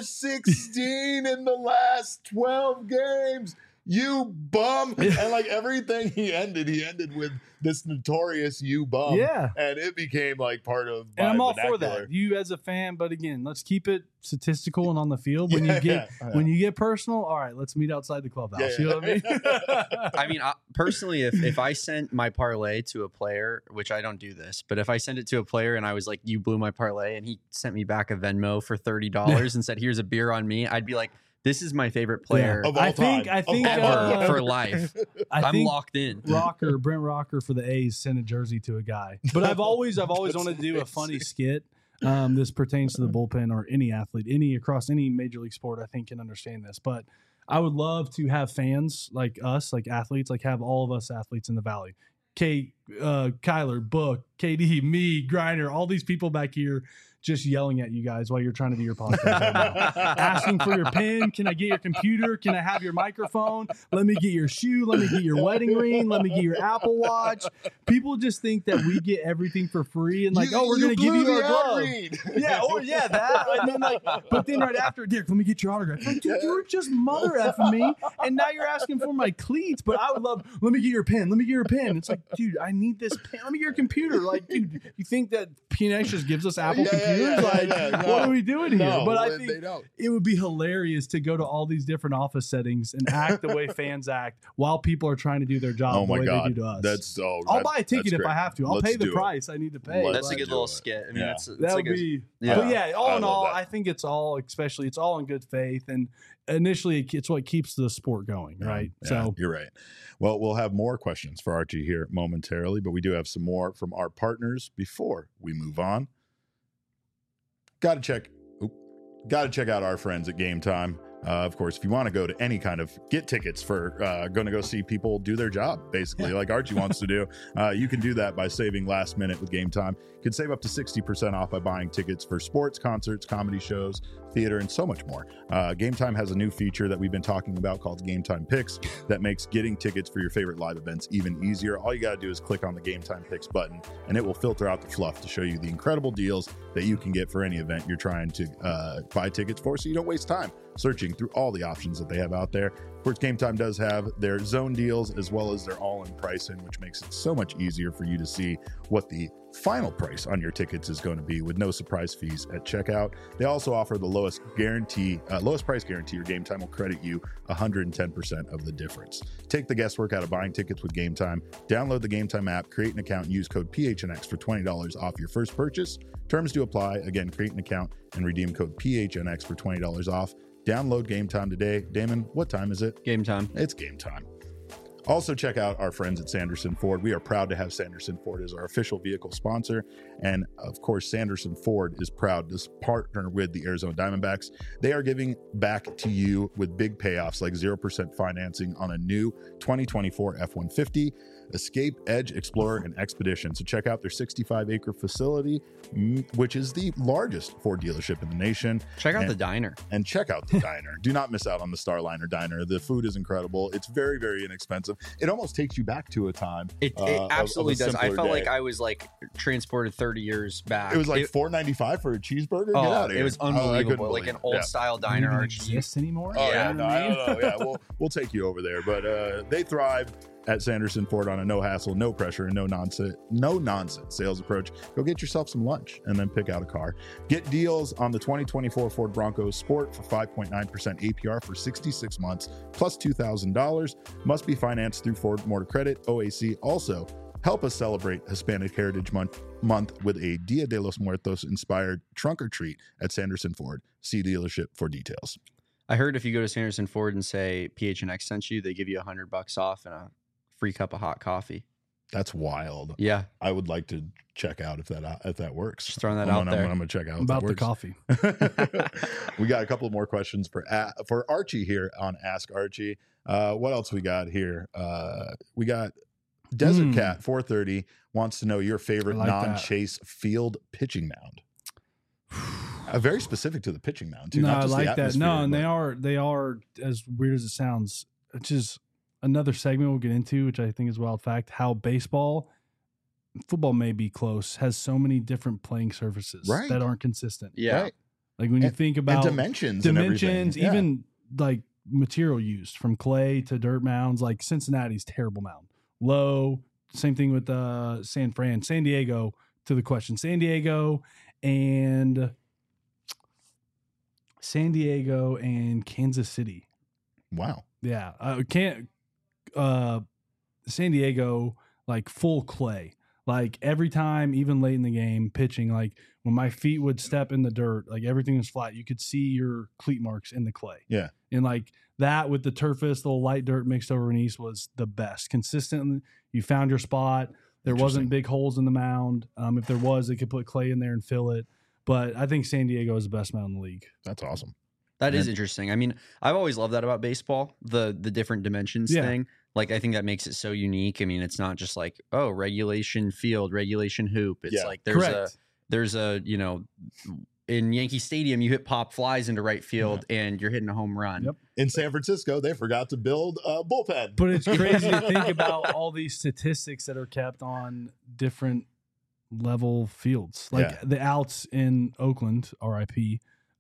16 in the last 12 games. You bum. And like everything he ended with this notorious you bum. Yeah. And it became like part of my I'm all vernacular. For that. You as a fan, but again, let's keep it statistical and on the field. When you get personal, all right, let's meet outside the clubhouse. You know what I mean? I mean, personally, if I sent my parlay to a player, which I don't do this, but if I sent it to a player and I was like, you blew my parlay, and he sent me back a Venmo for $30 and said, here's a beer on me, I'd be like, this is my favorite player of all time. I think ever for life. I'm locked in. Brent Rocker for the A's sent a jersey to a guy. But I've always wanted to do a funny skit. This pertains to the bullpen or any athlete, across any major league sport. I think can understand this. But I would love to have fans like us, like athletes, like have all of us athletes in the Valley. Kyler, Book, KD, me, Griner, all these people back here just yelling at you guys while you're trying to do your podcast right now. Asking for your pen. Can I get your computer? Can I have your microphone? Let me get your shoe. Let me get your wedding ring. Let me get your Apple Watch. People just think that we get everything for free and like, we're going to give you our glove. That. And then like, but then right after, Dick, let me get your autograph. Like, dude, you were just mother effing me, and now you're asking for my cleats. But I would love, let me get your pen. Let me get your pen. It's like, dude, I need this pen. Let me get your computer. Like, dude, you think that PNX just gives us Apple computers? What are we doing here? No, but I think it would be hilarious to go to all these different office settings and act the way fans act while people are trying to do their job the way they do to us. I'll buy a ticket if I have to. I'll pay the price I need to pay. That's a good little skit. I mean, that would be. But yeah, all in all, I think it's all in good faith, and initially it's what keeps the sport going, right? So you're right. Well, we'll have more questions for Archie here momentarily, but we do have some more from our partners before we move on. Got to check out our friends at Game Time. Of course, if you want to go to any kind of get tickets for going to go see people do their job, basically, like Archie wants to do, you can do that by saving last minute with Game Time. You can save up to 60% off by buying tickets for sports, concerts, comedy shows, theater, and so much more. Game Time has a new feature that we've been talking about called Game Time Picks that makes getting tickets for your favorite live events even easier. All you got to do is click on the Game Time Picks button, and it will filter out the fluff to show you the incredible deals that you can get for any event you're trying to buy tickets for, so you don't waste time searching through all the options that they have out there. course, Game Time does have their zone deals as well as their all-in pricing, which makes it so much easier for you to see what the final price on your tickets is going to be with no surprise fees at checkout. They also offer the lowest price guarantee. Your Game Time will credit you 110% of the difference. Take the guesswork out of buying tickets with Game Time. Download the Game Time app, create an account, and use code PHNX for $20 off your first purchase. Terms do apply. Again, create an account and redeem code PHNX for $20 off. Download Game Time today. Damon, what time is it? Game time. It's game time. Also, check out our friends at Sanderson Ford. We are proud to have Sanderson Ford as our official vehicle sponsor. And of course, Sanderson Ford is proud to partner with the Arizona Diamondbacks. They are giving back to you with big payoffs like 0% financing on a new 2024 F-150, Escape, Edge, Explorer, and Expedition. So check out their 65-acre facility, which is the largest Ford dealership in the nation. Check out the diner. And check out the diner. Do not miss out on the Starliner Diner. The food is incredible. It's very, very inexpensive. It almost takes you back to a time. It absolutely of a does. I felt simpler like day. I was like transported 30 years back. It was like $4.95 for a cheeseburger. Get out of here. It was Oh, I couldn't unbelievable. Like believe an it. old style diner. Even Archie. exist anymore? Oh yeah, You no, know what I I mean? don't know. Yeah, we'll take you over there, but they thrive at Sanderson Ford on a no hassle, no pressure, and no nonsense sales approach. Go get yourself some lunch and then pick out a car. Get deals on the 2024 Ford Bronco Sport for 5.9% APR for 66 months plus $2,000. Must be financed through Ford Motor Credit, OAC. Also, help us celebrate Hispanic Heritage Month with a Dia de los Muertos inspired trunk or treat at Sanderson Ford. See dealership for details. I heard if you go to Sanderson Ford and say PHNX sent you, they give you $100 off and a free cup of hot coffee. That's wild. Yeah, I would like to check out if that works. just throwing that out there. I'm gonna check out About if the that coffee. works. We got a couple more questions for Archie here on Ask Archie. What else we got here? We got Desert Cat 430 wants to know your favorite I like that. non-chase field pitching mound. Very specific to the pitching mound too. No, not I just the like that. atmosphere, No, and but- they are as weird as it sounds. Which is another segment we'll get into, which I think is a wild fact. How football may be close, has so many different playing surfaces Right. that aren't consistent. Yeah. Right. Like when you And- think and about dimensions, and everything. Yeah. even like material used from clay to dirt mounds. Like Cincinnati's terrible mound, low. Same thing with San Diego. To the question, San Diego and Kansas City. Wow. Yeah, San Diego, like full clay. Like every time, even late in the game, pitching, like when my feet would step in the dirt, like everything was flat. You could see your cleat marks in the clay. Yeah. And like that with the turfist, the little light dirt mixed over in East was the best. Consistent, you found your spot. There wasn't Interesting. big holes in the mound. If there was, they could put clay in there and fill it. But I think San Diego is the best mound in the league. That's awesome. That is And- interesting. I mean, I've always loved that about baseball, the different dimensions Yeah. thing. Like, I think that makes it so unique. I mean, it's not just like, oh, regulation field, regulation hoop. It's Yeah. like there's a, in Yankee Stadium, you hit pop flies into right field and you're hitting a home run. Yep. In San Francisco, they forgot to build a bullpen. But it's crazy to think about all these statistics that are kept on different level fields. Like Yeah. the outs in Oakland, RIP,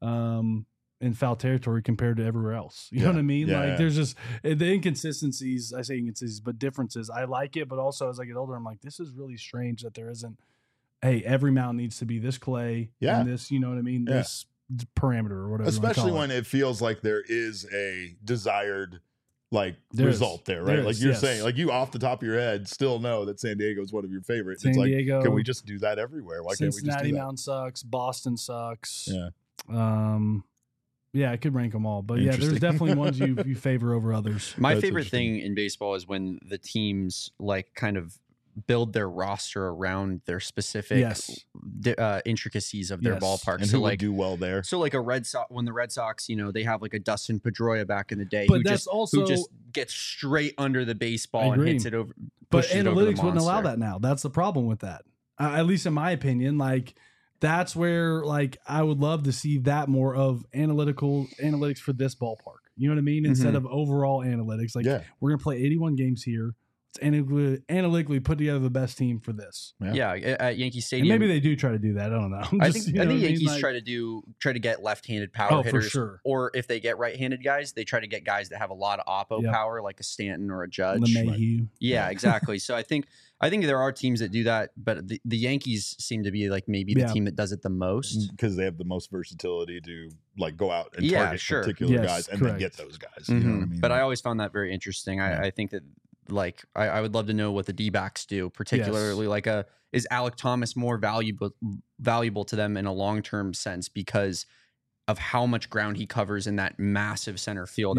in foul territory compared to everywhere else. You know Yeah. what I mean? Yeah, Like yeah. there's just the inconsistencies. I say inconsistencies, but differences. I like it, but also as I get older, I'm like, this is really strange that there isn't, hey, every mound needs to be this clay Yeah. and this, you know what I mean? Yeah. This parameter or whatever. you wanna Especially call when it feels like there is a desired There is. result there, right? There Like is, you're yes. saying, like you off the top of your head still know that San Diego is one of your favorites. San it's like, Diego, can we just do that everywhere? Why can't we just Cincinnati do that? mound sucks. Boston sucks. Yeah. Yeah, I could rank them all, but yeah, there's Interesting. definitely ones you favor over others. My That's favorite interesting. thing in baseball is when the teams like kind of build their roster around their specific Yes. intricacies of their Yes. ballpark. And So who would like, do well there? so like when the Red Sox, they have like a Dustin Pedroia back in the day, But who that's just also, who just gets straight under the I baseball and agree. hits it over. but pushes it over the analytics wouldn't allow monster. that now. That's the problem with that. At least in my opinion, like that's where like I would love to see that more of analytics for this ballpark. You know what I mean? Instead of overall analytics, like Yeah. we're gonna play 81 games here. analytically put together the best team for this. Yeah, at Yankee And Stadium. maybe they do try to do that. I don't know. I think Yankees try to get left-handed power hitters, for sure. Or if they get right-handed guys, they try to get guys that have a lot of oppo power, like a Stanton or a Judge. LeMahieu. Yeah, exactly. So I think there are teams that do that, but the Yankees seem to be like maybe the team that does it the most because they have the most versatility to like go out and target particular guys and then get those guys. You know what I mean? But I always found that very interesting. I think that like I would love to know what the D-backs do, particularly like is Alek Thomas more valuable to them in a long-term sense because of how much ground he covers in that massive center field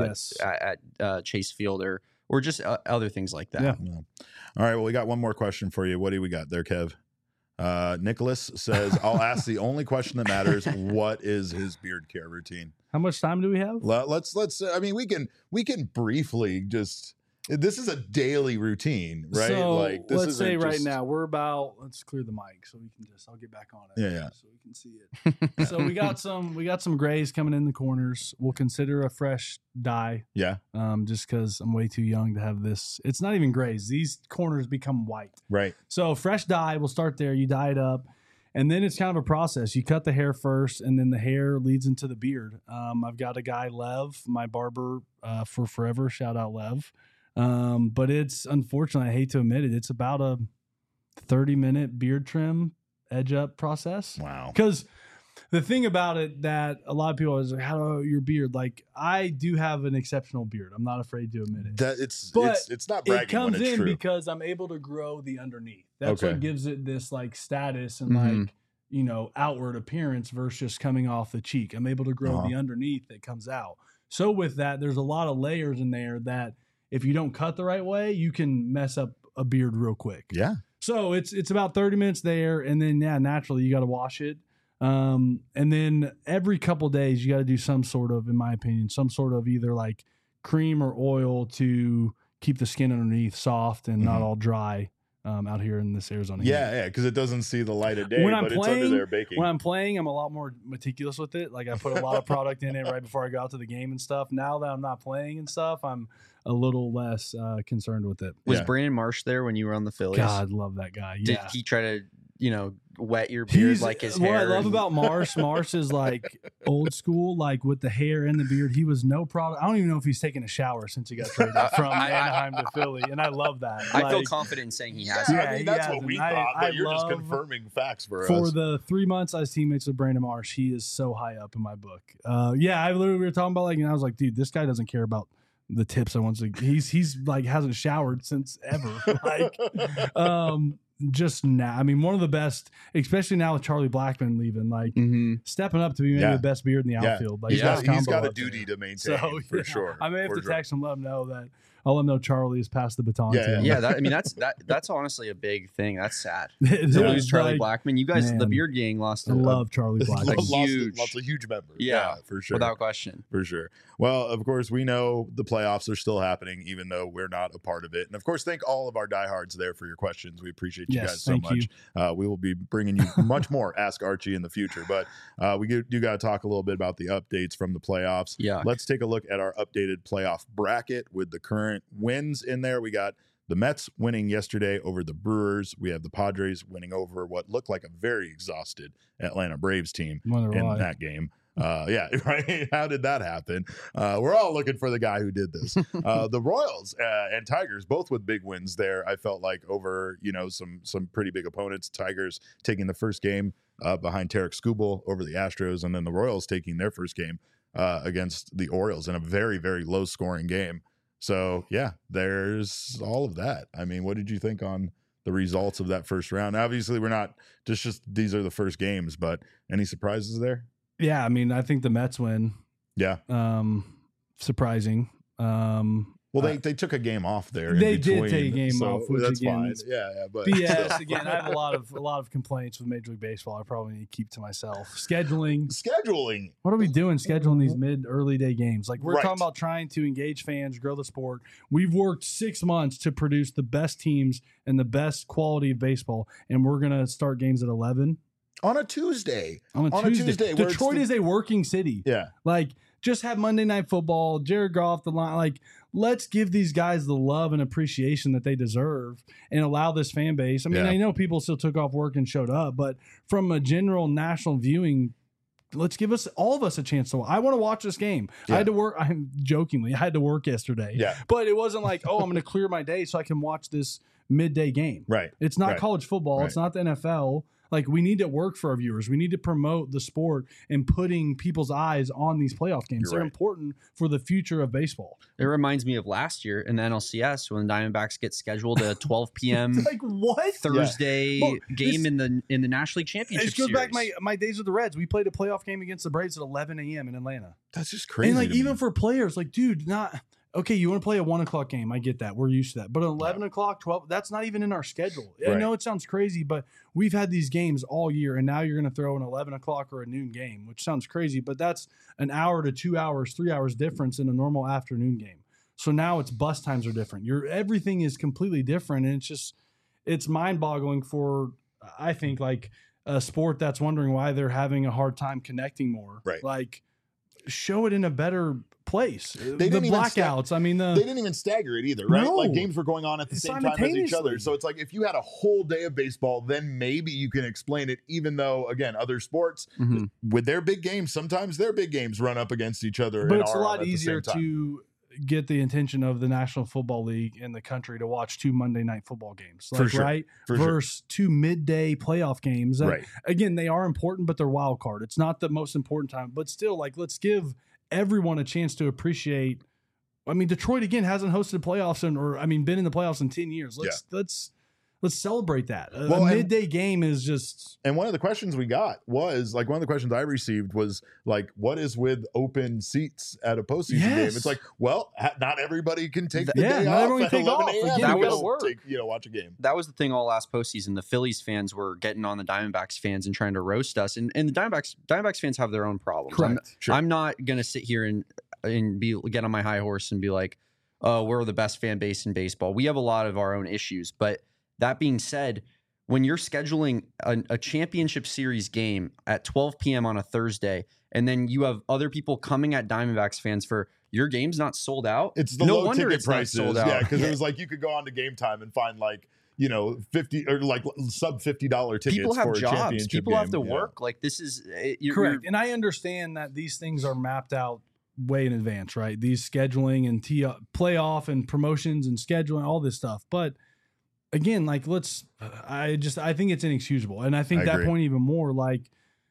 at Chase Field or just other things like that. Yeah. All right. Well, we got one more question for you. What do we got there, Kev? Nicholas says, I'll ask the only question that matters. What is his beard care routine? How much time do we have? Let's I mean, we can briefly just, this is a daily routine, right? So like this let's say right now we're about, let's clear the mic so we can I'll get back on it. Yeah. So we can see it. So we got some grays coming in the corners. We'll consider a fresh dye. Yeah. Just because I'm way too young to have this. It's not even grays. These corners become white. Right. So fresh dye, we'll start there. You dye it up. And then it's kind of a process. You cut the hair first, and then the hair leads into the beard. I've got a guy, Lev, my barber for forever. Shout out, Lev. But it's unfortunately, I hate to admit it, it's about a 30-minute beard trim edge up process. Wow. Because the thing about it that a lot of people is like, how do your beard? Like, I do have an exceptional beard. I'm not afraid to admit it. That it's not bragging. It comes when it's in true. because I'm able to grow the underneath. That's what gives it this like status and like, you know, outward appearance versus just coming off the cheek. I'm able to grow the underneath that comes out. So with that, there's a lot of layers in there that if you don't cut the right way, you can mess up a beard real quick. Yeah. So it's about 30 minutes there. And then, naturally, you got to wash it. And then every couple days, you got to do some sort of, in my opinion, some sort of either like cream or oil to keep the skin underneath soft and not all dry out here in this Arizona heat. Yeah, because it doesn't see the light of day, but it's under there baking. When I'm playing, I'm a lot more meticulous with it. Like I put a lot of product in it right before I go out to the game and stuff. Now that I'm not playing and stuff, I'm a little less concerned with it. Was Brandon Marsh there when you were on the Phillies? God, love that guy. Did he try to, wet your beard like his hair? What I love about Marsh is like old school, like with the hair and the beard. He was no problem. I don't even know if he's taken a shower since he got traded from Anaheim to Philly, and I love that. I feel confident in saying he has. Yeah, I mean, that's what we thought, but you're just confirming facts for us. For the 3 months I was teammates with Brandon Marsh, he is so high up in my book. We were talking about like, and I was like, dude, this guy doesn't care about the tips I want to. He's like hasn't showered since ever. Like, just now, I mean, one of the best, especially now with Charlie Blackmon leaving, like stepping up to be maybe the best beard in the outfield. Like, he's got a duty to maintain for sure. I may have to text him, let him know that. I'll let him know Charlie has passed the baton to him. Yeah, that's honestly a big thing. That's sad to lose Charlie Blackmon. You guys, the Beard Gang, lost. I love Charlie Blackmon. Lots of huge members. Yeah, for sure, without question, for sure. Well, of course, we know the playoffs are still happening, even though we're not a part of it. And of course, thank all of our diehards there for your questions. We appreciate you guys so much. We will be bringing you much more Ask Archie in the future, but we do got to talk a little bit about the updates from the playoffs. Yeah, let's take a look at our updated playoff bracket with the current wins in there. We got the Mets winning yesterday over the Brewers. We have the Padres winning over what looked like a very exhausted Atlanta Braves team in that game. Yeah, right. How did that happen? We're all looking for the guy who did this. The Royals and Tigers, both with big wins there. I felt like over some pretty big opponents. Tigers taking the first game behind Tarek Skubal over the Astros, and then the Royals taking their first game against the Orioles in a very, very low scoring game. So yeah, there's all of that. I mean, what did you think on the results of that first round? Obviously, we're not just these are the first games, but any surprises there? Yeah, I mean, I think the Mets win. Yeah. Surprising. Well, they took a game off there. They did take a game off, which that's again, fine. Yeah, but BS. Again, I have a lot of complaints with Major League Baseball. I probably need to keep to myself. Scheduling. What are we doing? Scheduling these early day games. Like we're talking about trying to engage fans, grow the sport. We've worked 6 months to produce the best teams and the best quality of baseball, and we're gonna start games at 11 on a Tuesday. On a Tuesday. Detroit is a working city. Yeah, like. just have Monday Night Football, Jared Goff, the line. Like, let's give these guys the love and appreciation that they deserve and allow this fan base. I mean, I know people still took off work and showed up, but from a general national viewing, let's give all of us a chance to. I want to watch this game. I had to work. I'm jokingly, I had to work yesterday. But it wasn't like, oh, I'm going to clear my day so I can watch this midday game. Right. It's not college football. It's not the NFL. Like, we need to work for our viewers. We need to promote the sport and putting people's eyes on these playoff games. They're important for the future of baseball. It reminds me of last year in the NLCS when the Diamondbacks get scheduled a 12 p.m. like what Thursday game in the National League Championship It goes Series. back my days with the Reds. We played a playoff game against the Braves at 11 a.m. in Atlanta. That's just crazy. And like, even for players, like, dude, not okay. You want to play a 1 o'clock game? I get that. We're used to that. But 11 o'clock, 12, that's not even in our schedule. I know it sounds crazy, but we've had these games all year, and now you're going to throw an 11 o'clock or a noon game, which sounds crazy, but that's an hour to 2 hours, 3 hours difference in a normal afternoon game. So now it's bus times are different. Everything is completely different, and it's mind-boggling for, I think, like a sport that's wondering why they're having a hard time connecting more. Right. Like, show it in a better place. They The blackouts. I mean, they didn't even stagger it either, right? No. Like, games were going on at the same time as each other. So it's like, if you had a whole day of baseball, then maybe you can explain it, even though, again, other sports with their big games, sometimes their big games run up against each other. But it's a lot easier to get the attention of the National Football League in the country to watch 2 Monday Night Football games, like, right? Versus 2 midday playoff games. Again, they are important, but they're wild card. It's not the most important time, but still, like, let's give everyone a chance to appreciate. I mean, Detroit again hasn't hosted playoffs been in the playoffs in 10 years. Let's celebrate that. A midday game is just. And one of the questions we got was like, one of the questions I received was like, what is with open seats at a postseason game? It's like, well, not everybody can take the day off at 11 a.m. That was work. Watch a game. That was the thing all last postseason. The Phillies fans were getting on the Diamondbacks fans and trying to roast us. And the Diamondbacks fans have their own problems. I'm not going to sit here and get on my high horse and be like, oh, we're the best fan base in baseball. We have a lot of our own issues, but that being said, when you're scheduling a championship series game at 12 p.m. on a Thursday, and then you have other people coming at Diamondbacks fans for your game's not sold out. It's the low ticket prices. Yeah, because it was like you could go on to Game Time and find like, you know, $50 or like sub $50 tickets. People have for jobs. A championship People game. have to work. Like, this is correct. And I understand that these things are mapped out way in advance, right? These scheduling and playoff and promotions and scheduling, all this stuff, but. Again, like, I think it's inexcusable. And I think that point even more, like,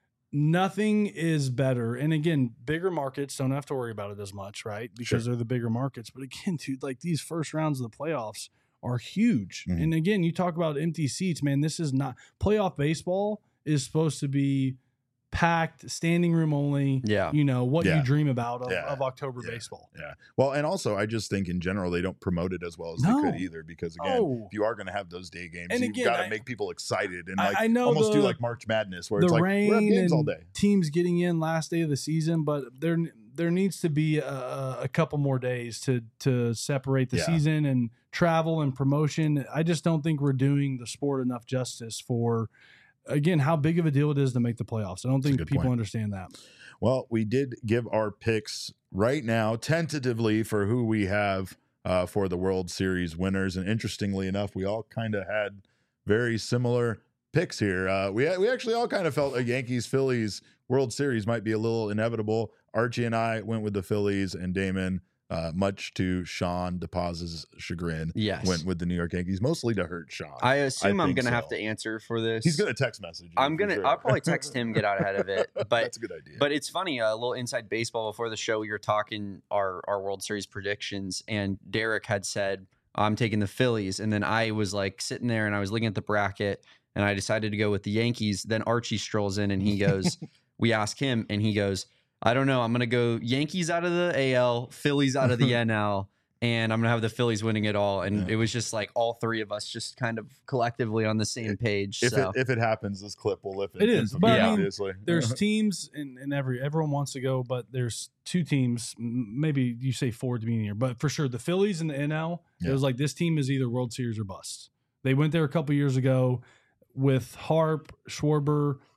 nothing is better. And again, bigger markets don't have to worry about it as much, right? Because they're the bigger markets. But again, dude, like, these first rounds of the playoffs are huge. And again, you talk about empty seats, man. This is not playoff baseball is supposed to be packed, standing room only. You know what you dream about of October baseball. Well, and also I just think in general they don't promote it as well as they could either, because again, if you are going to have those day games, you've got to make people excited and like almost do like March Madness where it's like we're have games all day. Teams getting in last day of the season, but there needs to be a couple more days to separate the season and travel and promotion. I just don't think we're doing the sport enough justice for. Again, how big of a deal it is to make the playoffs. I don't think people understand that. Well, we did give our picks right now, tentatively, for who we have for the World Series winners. And interestingly enough, we all kind of had very similar picks here. We actually all kind of felt a Yankees-Phillies World Series might be a little inevitable. Archie and I went with the Phillies, and Damon, much to Sean DePaz's chagrin, went with the New York Yankees, mostly to hurt Sean. I assume I'm going to have to answer for this. He's going to text message. I'll probably text him, get out ahead of it. But that's a good idea. But it's funny, a little inside baseball before the show, we were talking our World Series predictions, and Derek had said, I'm taking the Phillies. And then I was like sitting there and I was looking at the bracket and I decided to go with the Yankees. Then Archie strolls in and he goes, we ask him and he goes, I don't know. I'm going to go Yankees out of the AL, Phillies out of the NL, and I'm going to have the Phillies winning it all. And it was just like all three of us just kind of collectively on the same page. If it happens, this clip will lift it. It is. But obviously. There's teams and everyone wants to go, but there's two teams, maybe you say four at the beginning of the year, but for sure the Phillies and the NL, it was like this team is either World Series or bust. They went there a couple years ago with Harp, Schwarber,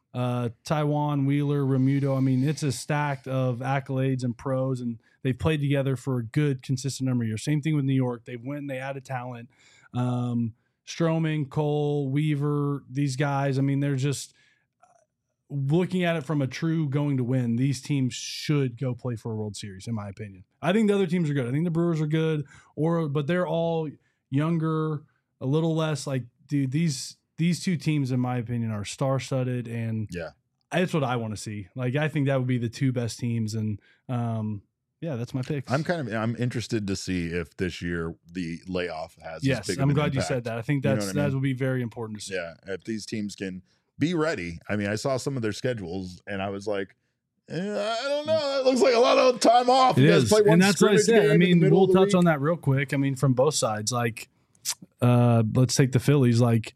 Taiwan, Wheeler, Remuto. I mean, it's a stack of accolades and pros, and they've played together for a good, consistent number of years. Same thing with New York. They went, they added talent. Stroman, Cole, Weaver, these guys. I mean, they're just looking at it from a true going to win. These teams should go play for a World Series, in my opinion. I think the other teams are good. I think the Brewers are good, but they're all younger, a little less like, dude, these two teams, in my opinion, are star-studded, and that's what I want to see. Like, I think that would be the two best teams, and that's my pick. I'm interested to see if this year the layoff has. Yes, I'm glad you said that. I think that will be very important to see. Yeah, if these teams can be ready. I mean, I saw some of their schedules, and I was like, I don't know. It looks like a lot of time off. It is, and that's what I said. I mean, we'll touch on that real quick. I mean, from both sides, like, let's take the Phillies. Like,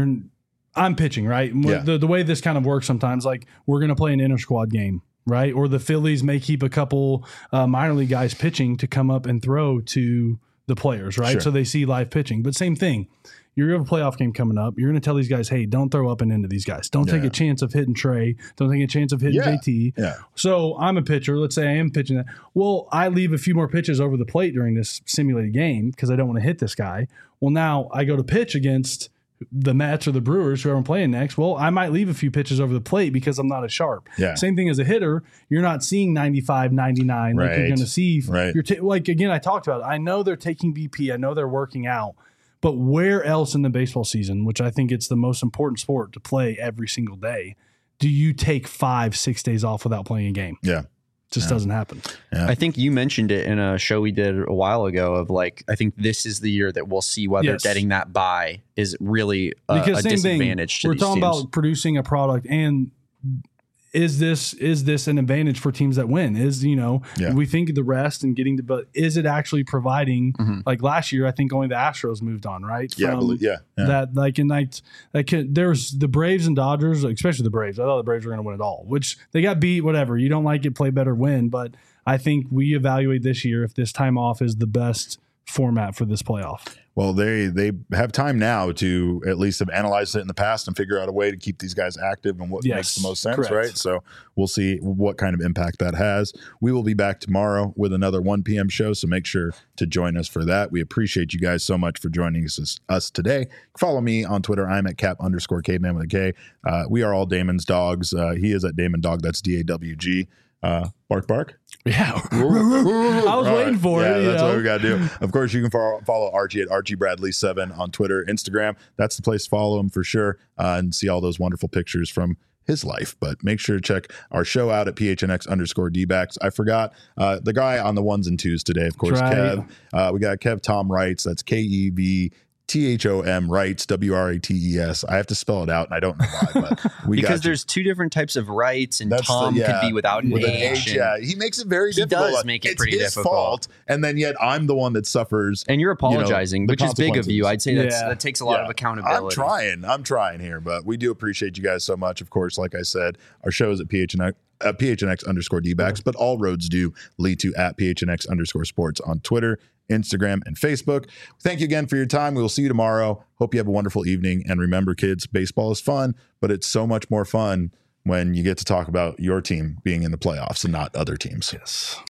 I'm pitching, right? Yeah. The way this kind of works sometimes, like, we're going to play an inter-squad game, right? Or the Phillies may keep a couple minor league guys pitching to come up and throw to the players, right? Sure. So they see live pitching. But same thing. You're going to have a playoff game coming up. You're going to tell these guys, hey, don't throw up and into these guys. Don't take a chance of hitting Trey. Don't take a chance of hitting JT. Yeah. So I'm a pitcher. Let's say I am pitching that. Well, I leave a few more pitches over the plate during this simulated game because I don't want to hit this guy. Well, now I go to pitch against the Mets or the Brewers, whoever I'm playing next. Well, I might leave a few pitches over the plate because I'm not as sharp. Yeah. Same thing as a hitter. You're not seeing 95, 99 like you're going to see. Right. Like, again, I talked about it. I know they're taking BP. I know they're working out. But where else in the baseball season, which I think it's the most important sport to play every single day, do you take 5-6 days off without playing a game? Yeah. Just doesn't happen. Yeah. I think you mentioned it in a show we did a while ago of like, I think this is the year that we'll see whether getting that bye is really a disadvantage to we're these talking teams. about producing a product, and is this an advantage for teams that win? We think the rest and getting but is it actually providing like last year? I think only the Astros moved on, right? There's the Braves and Dodgers, especially the Braves. I thought the Braves were going to win it all, which they got beat. Whatever, you don't like it, play better, win. But I think we evaluate this year if this time off is the best format for this playoff. Well, they have time now to at least have analyzed it in the past and figure out a way to keep these guys active and what makes the most sense, correct. Right? So we'll see what kind of impact that has. We will be back tomorrow with another 1 p.m. show, so make sure to join us for that. We appreciate you guys so much for joining us today. Follow me on Twitter. I'm at cap_caveman with a K. We are all Damon's dogs. He is at Damon Dog. That's DAWG. Bark, bark. Yeah. I was waiting for it. That's what we got to do. Of course, you can follow Archie at ArchieBradley7 on Twitter, Instagram. That's the place to follow him for sure and see all those wonderful pictures from his life. But make sure to check our show out at PHNX_DBacks. I forgot the guy on the 1s and 2s today, of course, Kev. We got Kev Tom Wrights. That's KEVTHOM Wrights, WRATES. I have to spell it out, and I don't know why, but because there's two different types of Wrights, and Tom could be without an H. Yeah, he makes it very difficult. He does make it pretty difficult. Fault, and then yet I'm the one that suffers. And you're apologizing, which is big of you. I'd say that takes a lot of accountability. I'm trying here, but we do appreciate you guys so much. Of course, like I said, our show is at PHNX_DBacks, but all roads do lead to at PHNX_sports on Twitter, Instagram, and Facebook. Thank you again for your time. We will see you tomorrow. Hope you have a wonderful evening. And remember, kids, baseball is fun, but it's so much more fun when you get to talk about your team being in the playoffs and not other teams. Yes.